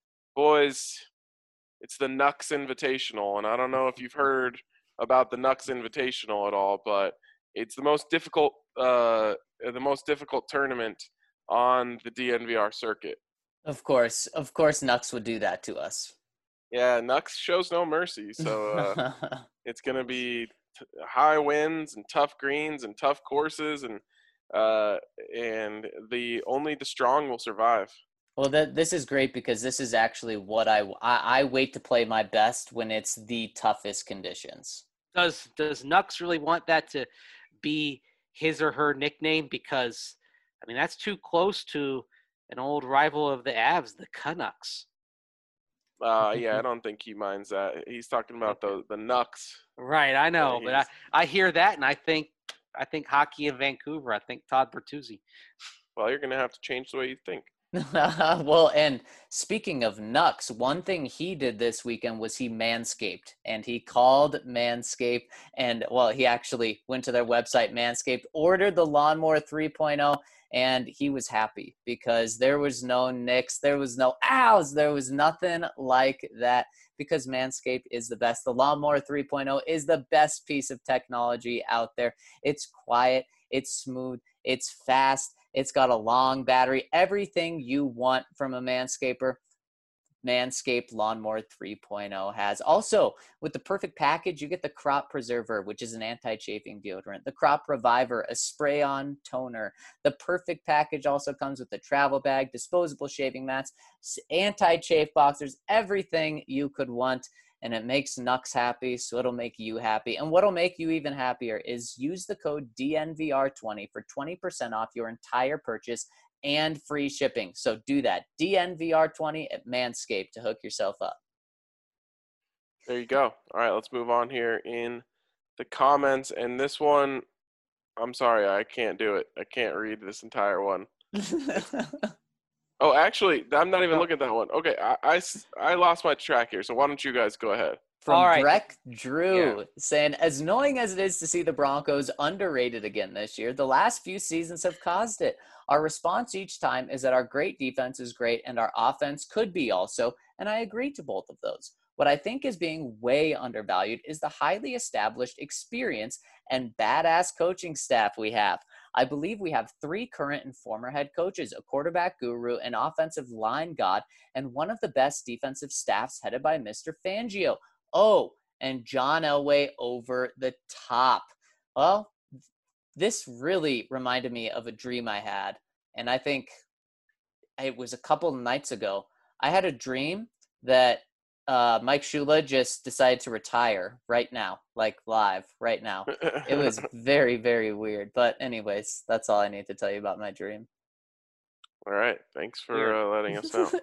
boys. It's the Nux Invitational, and I don't know if you've heard about the Nux Invitational at all, but it's the most difficult uh, the most difficult tournament on the D N V R circuit. Of course, of course, Nux would do that to us. Yeah, Nux shows no mercy, so uh, it's going to be t- high winds and tough greens and tough courses, and uh, and the only the strong will survive. Well, that this is great because this is actually what I, I I wait to play my best when it's the toughest conditions. Does does Nux really want that to be his or her nickname? Because I mean that's too close to an old rival of the Avs, the Canucks. Uh, yeah, I don't think he minds that. He's talking about the the Nux. Right, I know, Yeah, but I, I hear that and I think I think hockey in Vancouver. I think Todd Bertuzzi. Well, you're going to have to change the way you think. Well, and speaking of Nux, one thing he did this weekend was he manscaped, and he called Manscaped, and well, he actually went to their website, Manscaped, ordered the Lawnmower three point oh, and he was happy because there was no nicks, there was no ows, there was nothing like that because Manscaped is the best. The Lawnmower three point oh is the best piece of technology out there. It's quiet, it's smooth, it's fast. It's got a long battery. Everything you want from a Manscaper, Manscaped Lawnmower three point oh has. Also, with the perfect package, you get the Crop Preserver, which is an anti-chafing deodorant. The Crop Reviver, a spray-on toner. The perfect package also comes with the travel bag, disposable shaving mats, anti-chafe boxers, everything you could want. And it makes Nux happy, so it'll make you happy. And what'll make you even happier is use the code D N V R twenty for twenty percent off your entire purchase and free shipping. So do that, D N V R twenty at Manscaped to hook yourself up. There you go. All right, let's move on here in the comments. And this one, I'm sorry, I can't do it. I can't read this entire one. Oh, actually, I'm not even looking at that one. Okay, I, I, I lost my track here, so why don't you guys go ahead? From All right. Breck Drew Yeah. saying, as annoying as it is to see the Broncos underrated again this year, the last few seasons have caused it. Our response each time is that our great defense is great and our offense could be also, and I agree to both of those. What I think is being way undervalued is the highly established experience and badass coaching staff we have. I believe we have three current and former head coaches, a quarterback guru, an offensive line god, and one of the best defensive staffs headed by Mister Fangio. Oh, and John Elway over the top. Well, this really reminded me of a dream I had, and I think it was a couple nights ago. I had a dream that uh, Mike Shula just decided to retire right now, like live right now. It was very, very weird. But anyways, that's all I need to tell you about my dream. All right. Thanks for uh, letting us know.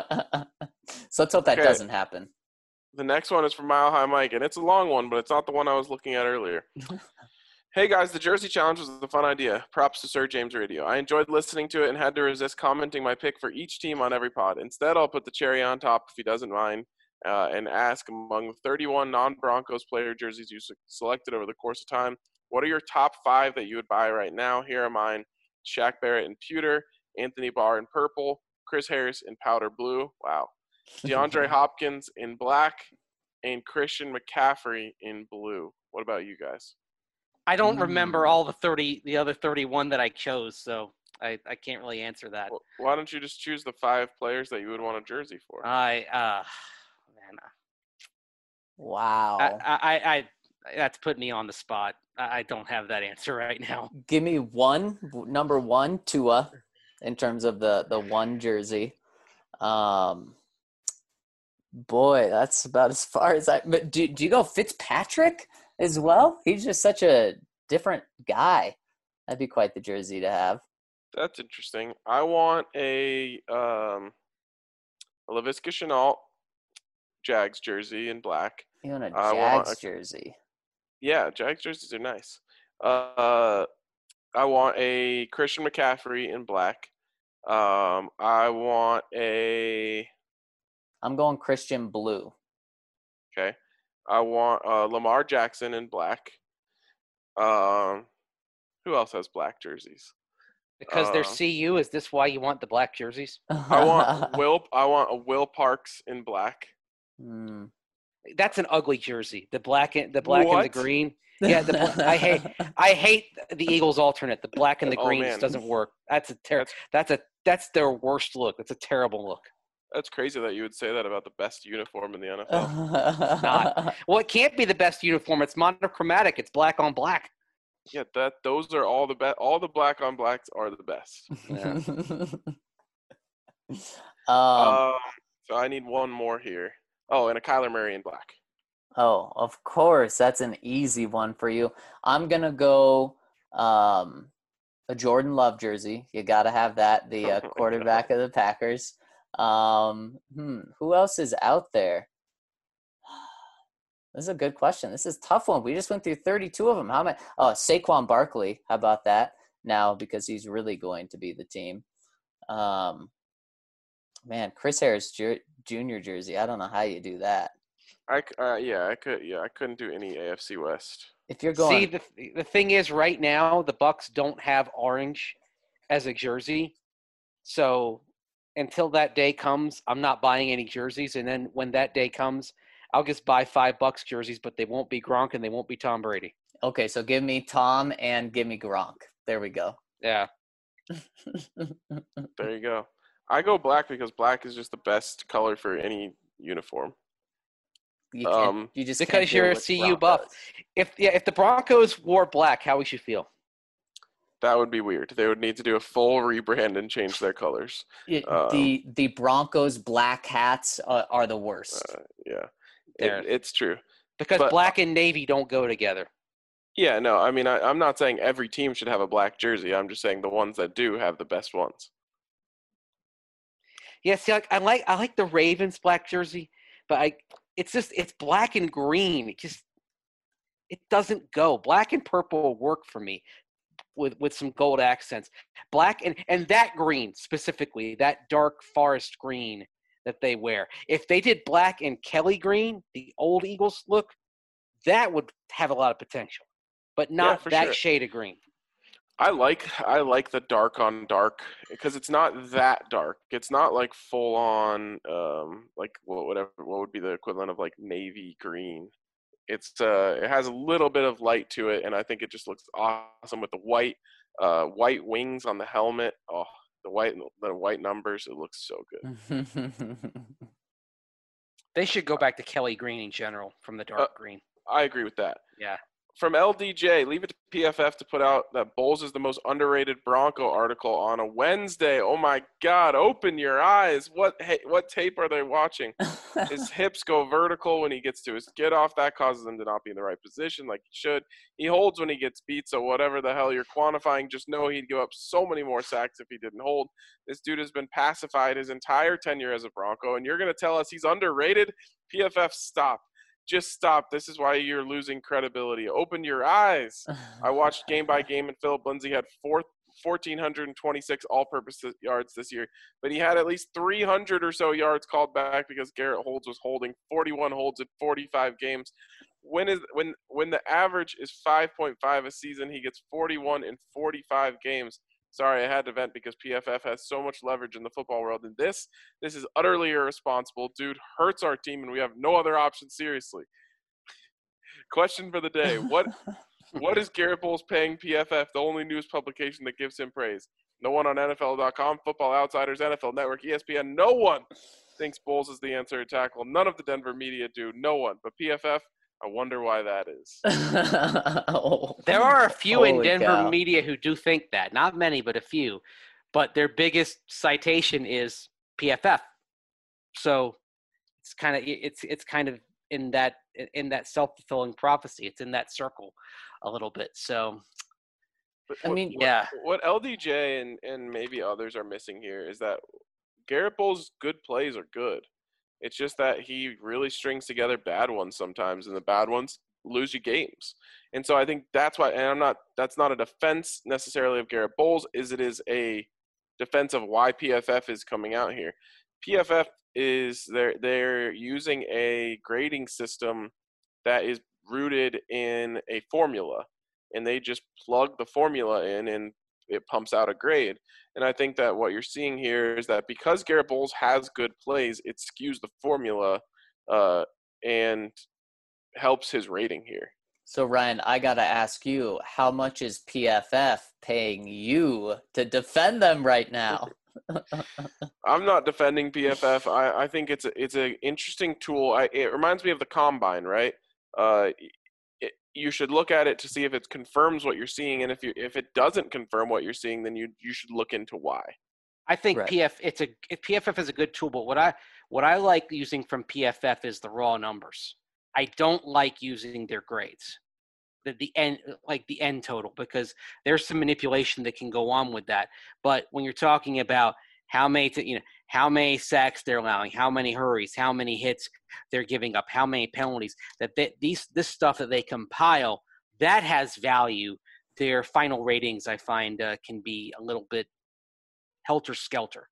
So let's hope that Okay. doesn't happen. The next one is from Mile High Mike, and it's a long one, but it's not the one I was looking at earlier. Hey, guys, the Jersey Challenge was a fun idea. Props to Sir James Radio. I enjoyed listening to it and had to resist commenting my pick for each team on every pod. Instead, I'll put the cherry on top if he doesn't mind. Uh, and ask, among the thirty-one non-Broncos player jerseys you selected over the course of time, what are your top five that you would buy right now? Here are mine: Shaq Barrett in pewter, Anthony Barr in purple, Chris Harris in powder blue. Wow. DeAndre Hopkins in black, and Christian McCaffrey in blue. What about you guys? I don't remember Mm. all the thirty, the other thirty-one that I chose, so I, I can't really answer that. Well, why don't you just choose the five players that you would want a jersey for? I, uh, man, Wow. I, I, I, I that's put me on the spot. I, I don't have that answer right now. Give me one, number one, Tua, in terms of the, the one jersey. Um, boy, that's about as far as I – but do, do you go Fitzpatrick as well? He's just such a different guy. That'd be quite the jersey to have. That's interesting. I want a um, a Laviska Shenault Jags jersey in black. You want a I want Jags a- jersey. Yeah, Jags jerseys are nice. Uh, I want a Christian McCaffrey in black. Um, I want a I'm going Christian blue. okay. I want uh, Lamar Jackson in black. Um, who else has black jerseys? Because they're Uh, C U, is this why you want the black jerseys? I want Will. I want a Will Parks in black. Hmm. That's an ugly jersey. The black and the black and the What? green. Yeah, the bla- I hate I hate the Eagles alternate. The black and the Oh, green man. just doesn't work. That's a ter- That's that's a that's their worst look. That's a terrible look. that's crazy that you would say that about the best uniform in the N F L. Not. Well, it can't be the best uniform. It's monochromatic. It's black on black. Yeah, that those are all the best. All the black on blacks are the best. Yeah. um, Um, so I need one more here. Oh, and a Kyler Murray in black. oh, of course, that's an easy one for you. I'm gonna go um, a Jordan Love jersey. You got to have that. The uh, Oh my quarterback of the Packers. Um, hmm, who else is out there? This is a good question. This is a tough one. We just went through thirty-two of them. How many? Oh, Saquon Barkley. How about that? Now, because he's really going to be the team. Um, man, Chris Harris Ju- Junior jersey. I don't know how you do that. I c- uh, yeah, I could yeah, I couldn't do any A F C West. If you're going, See, the the thing is, right now the Bucks don't have orange as a jersey, so until that day comes, I'm not buying any jerseys. And then when that day comes, I'll just buy five Bucks jerseys, but they won't be Gronk and they won't be Tom Brady. okay, so give me Tom and give me Gronk. There we go. Yeah, There you go. I go black because black is just the best color for any uniform. You can't. Um, you just because can't do you're it a with C U buff. Broncos. if yeah, if the Broncos wore black, how would you feel? That would be weird. They would need to do a full rebrand and change their colors. It- Um, the the Broncos black hats uh, are the worst. Uh, yeah, There. it, it's true. Because but- black and navy don't go together. Yeah, no, I mean, I, I'm not saying every team should have a black jersey. I'm just saying the ones that do have the best ones. Yeah, see, like, I like I like the Ravens black jersey, but I it's just it's black and green. It just it doesn't go. Black and purple work for me with with some gold accents. Black and and that green specifically, that dark forest green that they wear. If they did black and Kelly green, the old Eagles look, that would have a lot of potential. But not for that sure. shade of green. I like I like the dark on dark because it's not that dark. It's not like full on um like what whatever what would be the equivalent of like navy green. It's uh it has a little bit of light to it, and I think it just looks awesome with the white uh white wings on the helmet. Oh, the white the white numbers. It looks so good. They should go back to Kelly green in general from the dark Uh, green. I agree with that. Yeah. From L D J, leave it to P F F to put out that Bowles is the most underrated Bronco article on a Wednesday. Oh my God! Open your eyes. What hey, what tape are they watching? His hips go vertical when he gets to his get off. That causes him to not be in the right position like he should. He holds when he gets beat. So whatever the hell you're quantifying, just know he'd give up so many more sacks if he didn't hold. This dude has been pacified his entire tenure as a Bronco, and you're gonna tell us he's underrated? P F F, stop. Just stop. This is why you're losing credibility. Open your eyes. I watched game by game, and Philip Lindsay had four, one thousand four hundred twenty-six all-purpose yards this year. But he had at least three hundred or so yards called back because Garrett Holds was holding forty-one holds in forty-five games. When is when when the average is five point five a season, he gets forty-one in forty-five games. Sorry, I had to vent because P F F has so much leverage in the football world. And this, this is utterly irresponsible. Dude hurts our team, and we have no other option. Seriously. Question for the day. What what is Garrett Bowles paying P F F, the only news publication that gives him praise? No one on N F L dot com, Football Outsiders, N F L Network, E S P N. No one thinks Bowles is the answer to tackle. None of the Denver media do. No one. But P F F, I wonder why that is. Oh, There are a few in holy Denver cow. media who do think that. Not many, but a few. But their biggest citation is P F F. So it's kind of it's it's kind of in that in that self-fulfilling prophecy. It's in that circle a little bit. So But I what- mean, what, yeah. What L D J and, and maybe others are missing here is that Garrett Bowles' good plays are good. It's just that he really strings together bad ones sometimes, and the bad ones lose you games. And so I think that's why, and I'm not, that's not a defense necessarily of Garrett Bowles, is it is a defense of why P F F is coming out here. P F F is, they're, they're using a grading system that is rooted in a formula, and they just plug the formula in and it pumps out a grade. And I think that what you're seeing here is that because Garrett Bowles has good plays, it skews the formula uh, and helps his rating here. So, Ryan, I got to ask you, how much is P F F paying you to defend them right now? I'm not defending P F F. I, I think it's a, it's an interesting tool. I, it reminds me of the combine, right? Uh, it, you should look at it to see if it confirms what you're seeing, and if you if it doesn't confirm what you're seeing, then you you should look into why. I think Right. P F it's a if P F F is a good tool, but what I what I like using from P F F is the raw numbers. I don't like using their grades, the the end like the end total, because there's some manipulation that can go on with that. But when you're talking about how many to, you know how many sacks they're allowing, how many hurries, how many hits they're giving up, how many penalties, that they, these this stuff that they compile, that has value. Their final ratings, I find, uh, can be a little bit helter-skelter.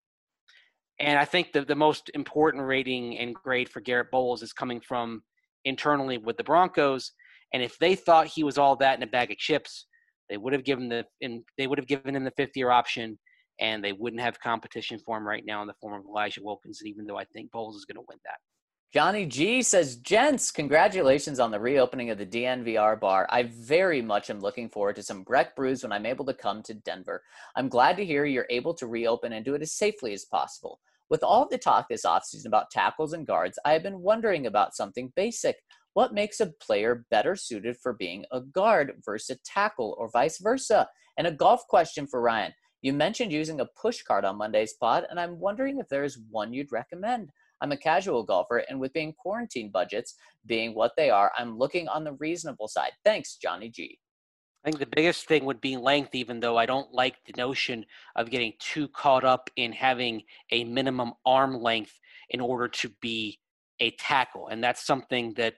And I think the, the most important rating and grade for Garrett Bowles is coming from internally with the Broncos. And if they thought he was all that in a bag of chips, they would have given the in, they would have given him the fifth-year option, and they wouldn't have competition for him right now in the form of Elijah Wilkinson, even though I think Bowles is going to win that. Johnny G says, gents, congratulations on the reopening of the D N V R bar. I very much am looking forward to some Breck brews when I'm able to come to Denver. I'm glad to hear you're able to reopen and do it as safely as possible. With all the talk this offseason about tackles and guards, I have been wondering about something basic. What makes a player better suited for being a guard versus a tackle, or vice versa? And a golf question for Ryan. You mentioned using a push cart on Monday's pod, and I'm wondering if there is one you'd recommend. I'm a casual golfer, and with being quarantine budgets being what they are, I'm looking on the reasonable side. Thanks, Johnny G. I think the biggest thing would be length, even though I don't like the notion of getting too caught up in having a minimum arm length in order to be a tackle. And that's something that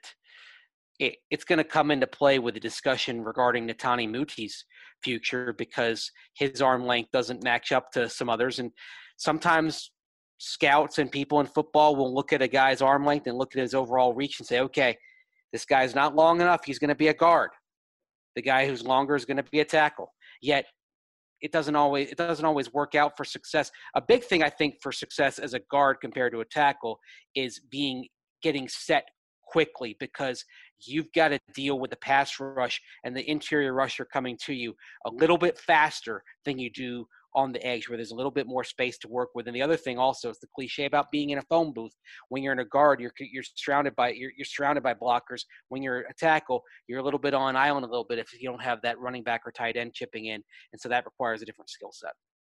it, it's going to come into play with the discussion regarding Netani Muti's future, because his arm length doesn't match up to some others. And sometimes scouts and people in football will look at a guy's arm length and look at his overall reach and say, okay, this guy's not long enough, he's going to be a guard. The guy who's longer is going to be a tackle. Yet it doesn't always it doesn't always work out for success. A big thing, I think, for success as a guard compared to a tackle is being getting set quickly, because you've got to deal with the pass rush and the interior rusher coming to you a little bit faster than you do on the edge, where there's a little bit more space to work with. And the other thing also is the cliche about being in a phone booth. When you're in a guard, you're you're surrounded by you're, you're surrounded by blockers. When you're a tackle, you're a little bit on island a little bit if you don't have that running back or tight end chipping in, and so that requires a different skill set.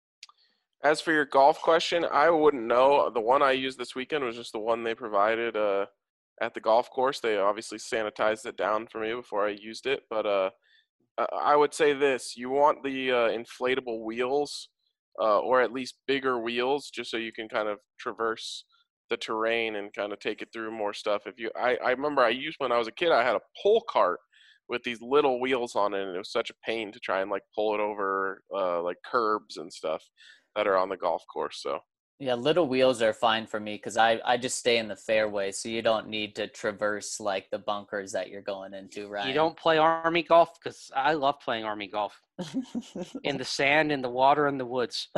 As for your golf question, I wouldn't know. The one I used this weekend was just the one they provided uh, at the golf course. They obviously sanitized it down for me before I used it, but uh, I would say this: you want the uh, inflatable wheels, uh, or at least bigger wheels, just so you can kind of traverse the terrain and kind of take it through more stuff. If you, I, I remember I used when I was a kid, I had a pull cart with these little wheels on it, and it was such a pain to try and like pull it over uh, like curbs and stuff that are on the golf course. So. Yeah, little wheels are fine for me because I, I just stay in the fairway, so you don't need to traverse like the bunkers that you're going into, right? You don't play Army golf? Because I love playing Army golf. In the sand, in the water, in the woods.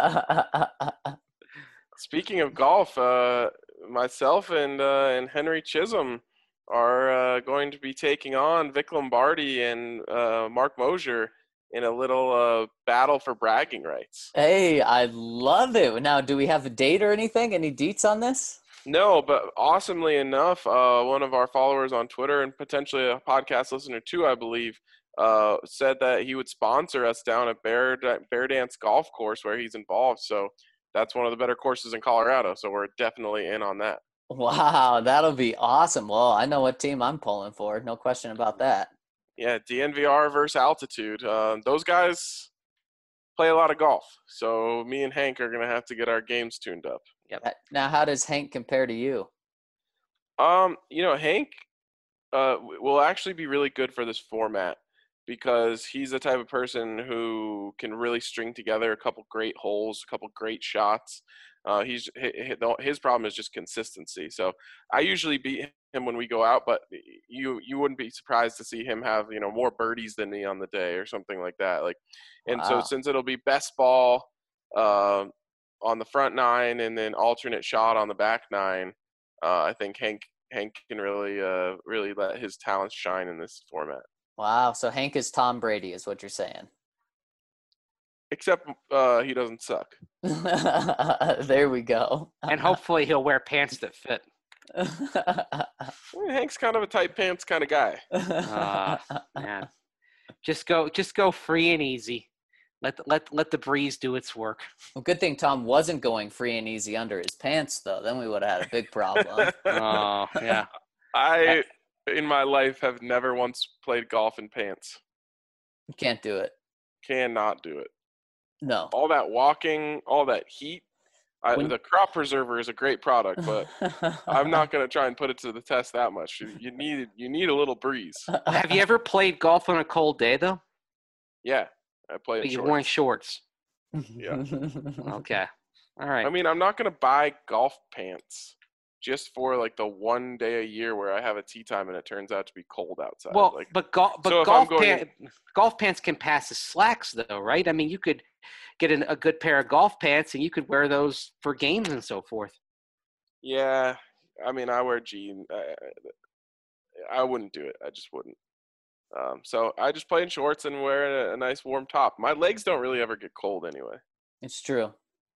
Speaking of golf, uh, myself and uh, and Henry Chisholm are uh, going to be taking on Vic Lombardi and uh, Mark Mosier in a little uh, battle for bragging rights. Hey, I love it. Now, do we have a date or anything? Any deets on this? No, but awesomely enough, uh, one of our followers on Twitter and potentially a podcast listener too, I believe, uh, said that he would sponsor us down at Bear, Bear Dance Golf Course where he's involved. So that's one of the better courses in Colorado. So we're definitely in on that. Wow, that'll be awesome. Well, I know what team I'm pulling for. No question about that. Yeah, D N V R versus altitude. Uh, those guys play a lot of golf. So me and Hank are going to have to get our games tuned up. Yep. Now, how does Hank compare to you? Um, you know, Hank uh, will actually be really good for this format because he's the type of person who can really string together a couple great holes, a couple great shots. Uh, he's his problem is just consistency. So I usually beat him when we go out, but you you wouldn't be surprised to see him have, you know, more birdies than me on the day or something like that. Like, and Wow. so since it'll be best ball uh, on the front nine and then alternate shot on the back nine, uh, I think Hank Hank can really, uh, really let his talents shine in this format. Wow. So Hank is Tom Brady, is what you're saying. Except uh, he doesn't suck. There we go. And hopefully he'll wear pants that fit. Well, Hank's kind of a tight pants kind of guy. Uh, man, just go, just go free and easy. Let the, let let the breeze do its work. Well, good thing Tom wasn't going free and easy under his pants, though. Then we would have had a big problem. Oh yeah. I, in my life, have never once played golf in pants. You can't do it. Cannot do it. No. All that walking, all that heat. I, When- the crop preserver is a great product, but I'm not going to try and put it to the test that much. You, you need you need a little breeze. Have you ever played golf on a cold day though? Yeah, I play But in you shorts. wearing shorts. Yeah. Okay. All right. I mean, I'm not going to buy golf pants just for like the one day a year where I have a tee time and it turns out to be cold outside. Well, like, but golf, but so if golf, I'm going pant, golf pants can pass as slacks, though, right? I mean, you could get an, a good pair of golf pants, and you could wear those for games and so forth. yeah, I mean, I wear jeans. I, I wouldn't do it. I just wouldn't. Um, so I just play in shorts and wear a, a nice warm top. My legs don't really ever get cold anyway. It's true.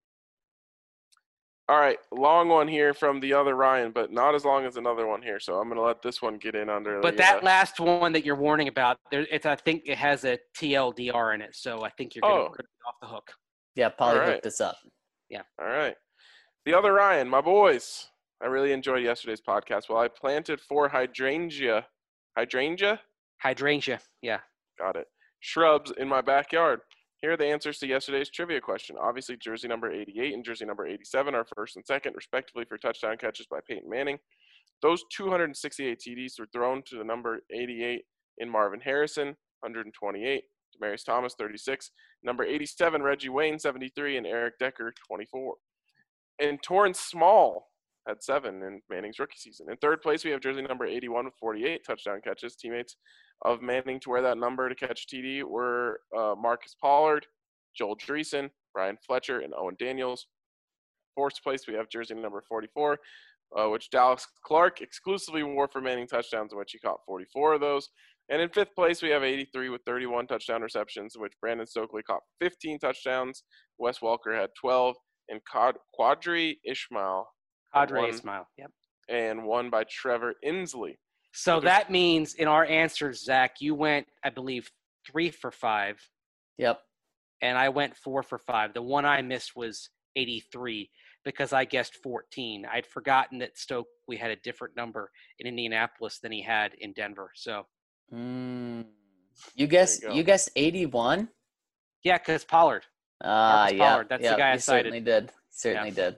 All right, long one here from the other Ryan, but not as long as another one here. So I'm going to let this one get in under. But the, that uh, last one that you're warning about, there, it's I think it has a T L D R in it, so I think you're going Oh. to be off the hook. Yeah, Polly All right. hooked this up. All right. The other Ryan, my boys. I really enjoyed yesterday's podcast. Well, I planted four hydrangea. Hydrangea? Hydrangea, yeah. Got it. Shrubs in my backyard. Here are the answers to yesterday's trivia question. Obviously, jersey number eighty-eight and jersey number eighty-seven are first and second, respectively, for touchdown catches by Peyton Manning. Those two hundred sixty-eight T Ds were thrown to the number eighty-eight in Marvin Harrison, one hundred twenty-eight. Demaryius Thomas, thirty-six. Number eighty-seven, Reggie Wayne, seventy-three. And Eric Decker, twenty-four. And Torrance Small had seven in Manning's rookie season. In third place, we have jersey number eighty-one with forty-eight touchdown catches. Teammates of Manning to wear that number to catch T D were uh, Marcus Pollard, Joel Dreesen, Brian Fletcher, and Owen Daniels. Fourth place, we have jersey number forty-four, uh, which Dallas Clark exclusively wore for Manning touchdowns, in which he caught forty-four of those. And in fifth place, we have eighty-three with thirty-one touchdown receptions, in which Brandon Stokely caught fifteen touchdowns. Wes Welker had twelve, and Quad- Quadri Ishmael Padre one. Ismail, yep. and one by Trevor Inslee. So But there's- that means in our answers, Zach, you went, I believe, three for five, Yep. and I went four for five. The one I missed was eighty-three because I guessed fourteen. I'd forgotten that Stokely had a different number in Indianapolis than he had in Denver. So, Mm. You guessed you go. you guessed eighty-one? yeah, because Pollard. Ah, Marcus yeah. Pollard, that's the yeah, guy I you cited. certainly did. Certainly did.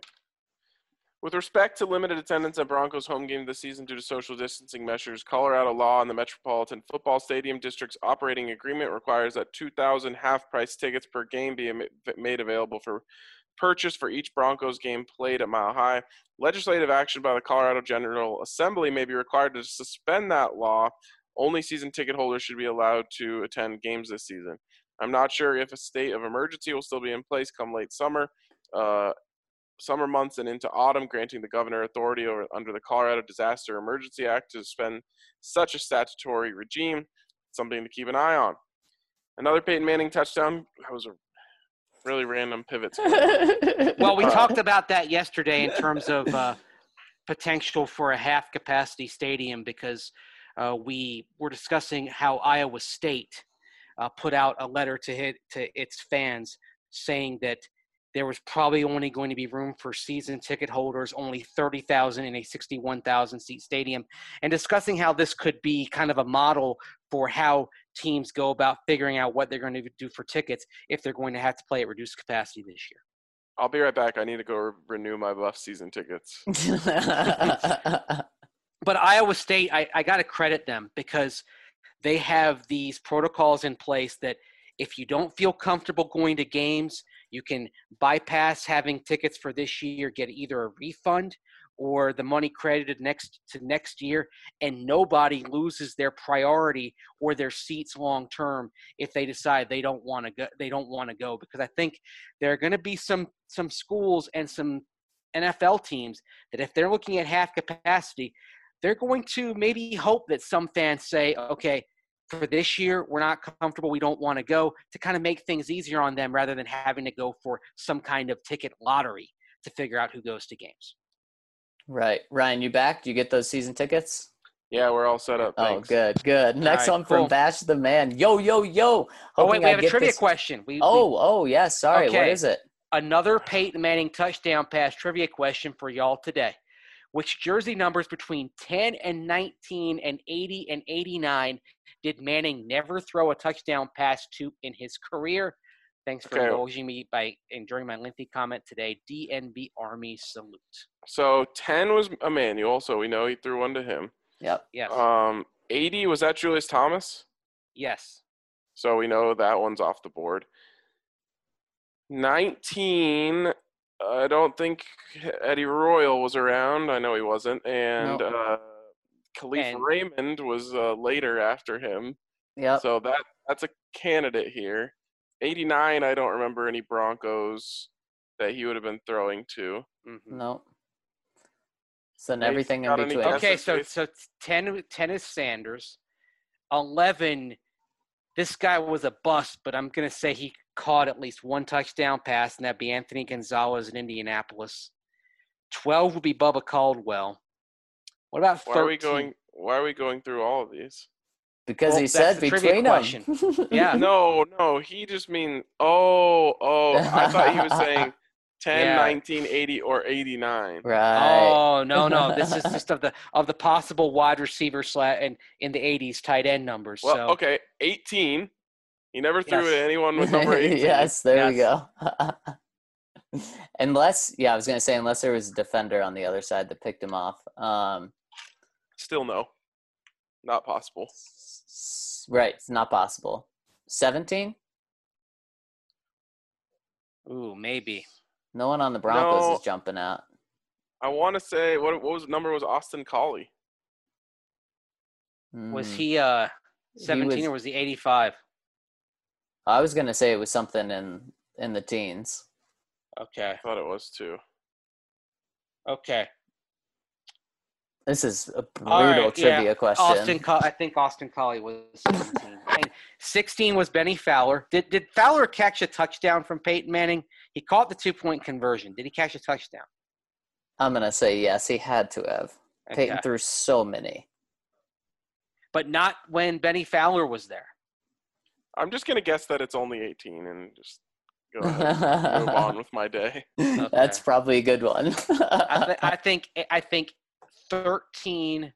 With respect to limited attendance at Broncos home game this season due to social distancing measures, Colorado law and the Metropolitan Football Stadium District's operating agreement requires that two thousand half-price tickets per game be made available for purchase for each Broncos game played at Mile High. Legislative action by the Colorado General Assembly may be required to suspend that law. Only season ticket holders should be allowed to attend games this season. I'm not sure if a state of emergency will still be in place come late summer. Uh, summer months and into autumn, granting the governor authority over, under the Colorado Disaster Emergency Act to suspend such a statutory regime. Something to keep an eye on. Another Peyton Manning touchdown. That was a really random pivot. Well, we Uh, talked about that yesterday in terms of uh, potential for a half-capacity stadium because uh, we were discussing how Iowa State uh, put out a letter to hit to its fans saying that there was probably only going to be room for season ticket holders, only thirty thousand in a sixty-one thousand seat stadium, and discussing how this could be kind of a model for how teams go about figuring out what they're going to do for tickets if they're going to have to play at reduced capacity this year. I'll be right back. I need to go re- renew my Buff season tickets. But Iowa State, I, I got to credit them because they have these protocols in place that if you don't feel comfortable going to games, you can bypass having tickets for this year, get either a refund or the money credited next to next year, and nobody loses their priority or their seats long term if they decide they don't want to go. They don't want to go because I think there are going to be some some schools and some N F L teams that if they're looking at half capacity, they're going to maybe hope that some fans say, okay, for this year, we're not comfortable, we don't want to go, to kind of make things easier on them rather than having to go for some kind of ticket lottery to figure out who goes to games. Right. Ryan, you back? Do you get those season tickets? Yeah, we're all set up. Thanks. Oh, good, good. Next right, one from cool. Bash the Man. Yo, yo, yo. Oh, wait, Hoping we I have a get trivia this- question. We, Oh, we, oh, yes. Sorry. What Okay. is it? Another Peyton Manning touchdown pass trivia question for y'all today. Which jersey numbers between ten and nineteen and eighty and eighty-nine did Manning never throw a touchdown pass to in his career? Thanks for Okay. indulging me by enduring my lengthy comment today. D N B Army salute. So ten was Emmanuel, so we know he threw one to him. Yep. Yes. Um, eighty, was that Julius Thomas? yes. So we know that one's off the board. nineteen, I don't think Eddie Royal was around. I know he wasn't. And No. uh, Khalif And- Raymond was uh, later after him. Yep. So that that's a candidate here. eighty-nine, I don't remember any Broncos that he would have been throwing to. Mhm. No. So then Hey, everything in got any between. guesses? Okay, so Yes, so ten, ten is Sanders. eleven, this guy was a bust, but I'm going to say he caught at least one touchdown pass, and that'd be Anthony Gonzalez in Indianapolis. twelve would be Bubba Caldwell. What about thirteen? Why are we going? Why are we going through all of these? Because Well, he that's said the trivia between them. Yeah. No, no, he just mean. Oh, oh, I thought he was saying ten, Yeah. nineteen, eighty, or eighty-nine. Right. Oh no, no! This is just of the of the possible wide receiver slat and in the eighties tight end numbers. Well, so okay, eighteen. He never threw Yes. to anyone with number eighteen. Yes, there we Yes. go. Unless, yeah, I was going to say, unless there was a defender on the other side that picked him off. Um, Still no. Not possible. s- right, it's not possible. seventeen? ooh, maybe. No one on the Broncos No. is jumping out. I want to say what what was number was Austin Collie. Was Hmm. he uh He seventeen was- or was he eighty-five? I was going to say it was something in, in the teens. Okay, I thought it was too. okay. This is a brutal All right, yeah. trivia question. Austin, Co- I think Austin Collie was seventeen. And sixteen was Benny Fowler. Did did Fowler catch a touchdown from Peyton Manning? He caught the two point conversion. Did he catch a touchdown? I'm going to say yes, he had to have. Peyton Okay. threw so many. But not when Benny Fowler was there. I'm just gonna guess that it's only eighteen and just go ahead, move on with my day. That's probably a good one. I, th- I think I think thirteen,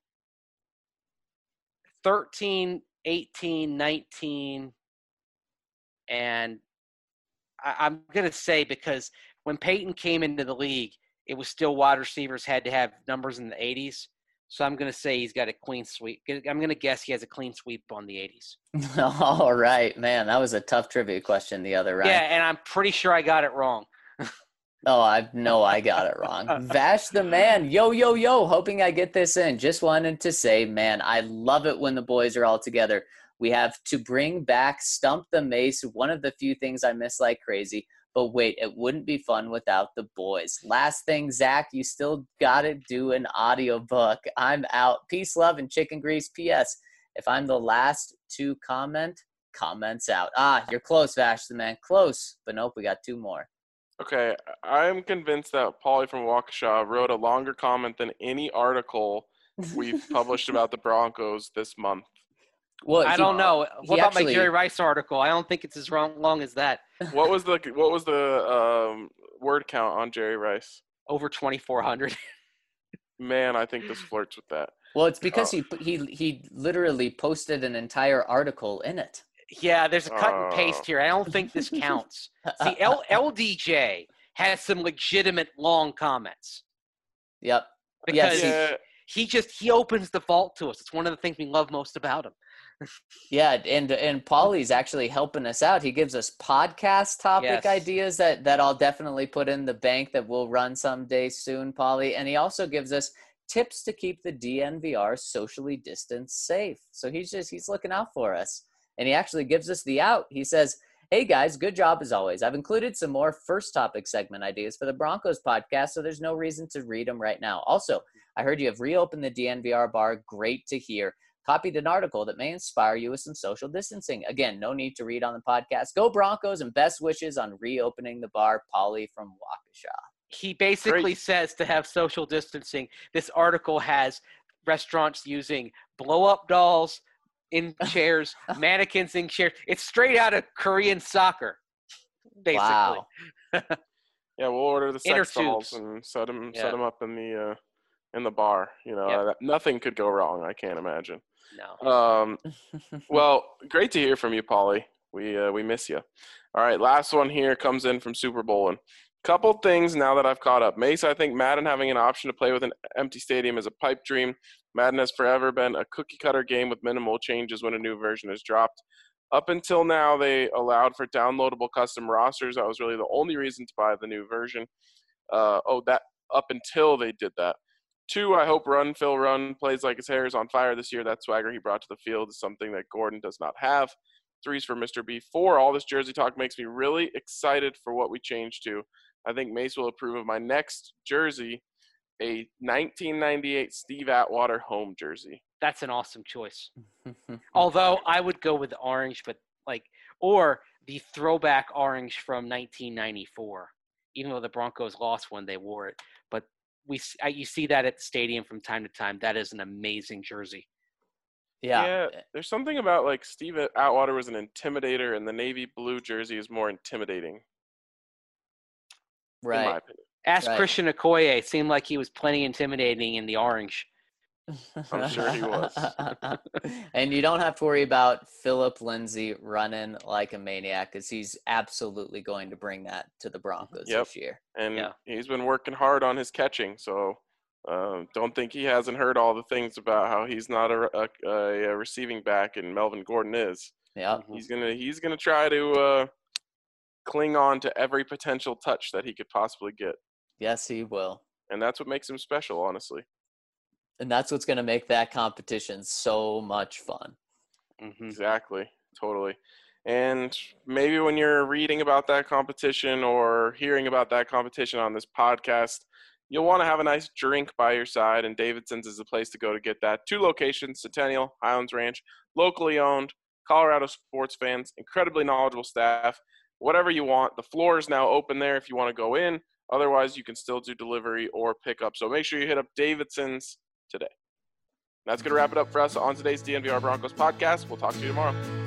thirteen, eighteen, nineteen, and I, I'm gonna say because when Peyton came into the league, it was still wide receivers had to have numbers in the eighties. So I'm gonna say he's got a clean sweep. I'm gonna guess he has a clean sweep on the eighties. All right, man. That was a tough trivia question the other round. Yeah, and I'm pretty sure I got it wrong. Oh, I know I got it wrong. Vash the Man. Yo, yo, yo. Hoping I get this in. Just wanted to say, man, I love it when the boys are all together. We have to bring back Stump the Mace, one of the few things I miss like crazy. But wait, it wouldn't be fun without the boys. Last thing, Zach, you still got to do an audiobook. I'm out. Peace, love, and chicken grease. P S. If I'm the last to comment, comments out. Ah, you're close, Vash the Man. Close. But nope, we got two more. Okay, I'm convinced that Paulie from Waukesha wrote a longer comment than any article we've published about the Broncos this month. Well, I he- don't know. he What about actually- my Jerry Rice article? I don't think it's as wrong, long as that. What was the what was the um, word count on Jerry Rice? Over twenty-four hundred. Man, I think this flirts with that. Well, it's because Oh. he he he literally posted an entire article in it. Yeah, there's a cut and Oh. paste here. I don't think this counts. See, L- LDJ has some legitimate long comments Yep. because Yes, he- Yeah, he just he opens the vault to us. It's one of the things we love most about him. Yeah, and and Paulie's actually helping us out. He gives us podcast topic Yes. ideas that that I'll definitely put in the bank that we'll run someday soon, Paulie. And he also gives us tips to keep the D N V R socially distanced safe. So he's just he's looking out for us. And he actually gives us the out. He says, "Hey guys, good job as always. I've included some more first topic segment ideas for the Broncos podcast, so there's no reason to read them right now. Also, I heard you have reopened the D N V R bar. Great to hear. Copied an article that may inspire you with some social distancing. Again, no need to read on the podcast. Go Broncos and best wishes on reopening the bar. Polly from Waukesha. He basically Great. says to have social distancing. This article has restaurants using blow-up dolls in chairs, mannequins in chairs. It's straight out of Korean soccer, basically. Wow. Yeah, we'll order the Inner sex dolls tubes. and set them Yeah. set them up in the uh, in the bar. You know, Yep. that, nothing could go wrong. I can't imagine. No. Um, well, great to hear from you, Polly. We uh, we miss you. All right, last one here comes in from Super Bowlin'. Couple things now that I've caught up. Mace, I think Madden having an option to play with an empty stadium is a pipe dream. Madden has forever been a cookie-cutter game with minimal changes when a new version is dropped. Up until now, they allowed for downloadable custom rosters. That was really the only reason to buy the new version. Uh, oh, that up until they did that. Two, I hope Run, Phil Run plays like his hair is on fire this year. That swagger he brought to the field is something that Gordon does not have. Three's for Mister B. Four, all this jersey talk makes me really excited for what we changed to. I think Mace will approve of my next jersey, a nineteen ninety-eight Steve Atwater home jersey. That's an awesome choice. Although I would go with the orange, but like, or the throwback orange from nineteen ninety-four. Even though the Broncos lost when they wore it, but we you see that at the stadium from time to time. That is an amazing jersey. Yeah. Yeah, there's something about like Steve Atwater was an intimidator, and the navy blue jersey is more intimidating. In my Right. opinion. Ask Right. Christian Okoye. It seemed like he was plenty intimidating in the orange. I'm sure he was. And you don't have to worry about Philip Lindsay running like a maniac because he's absolutely going to bring that to the Broncos Yep. this year. And Yeah. he's been working hard on his catching, so um, don't think he hasn't heard all the things about how he's not a, a, a receiving back and Melvin Gordon is. Yep. He's gonna he's gonna try to uh, cling on to every potential touch that he could possibly get, Yes, he will. and that's what makes him special, honestly. And that's what's going to make that competition so much fun. Mm-hmm. Exactly, totally. And maybe when you're reading about that competition or hearing about that competition on this podcast, you'll want to have a nice drink by your side, and Davidson's is the place to go to get that. Two locations, Centennial, Highlands Ranch, locally owned, Colorado sports fans, incredibly knowledgeable staff. Whatever you want. The floor is now open there if you want to go in. Otherwise, you can still do delivery or pickup. So make sure you hit up Davidson's today. That's going to wrap it up for us on today's D N V R Broncos podcast. We'll talk to you tomorrow.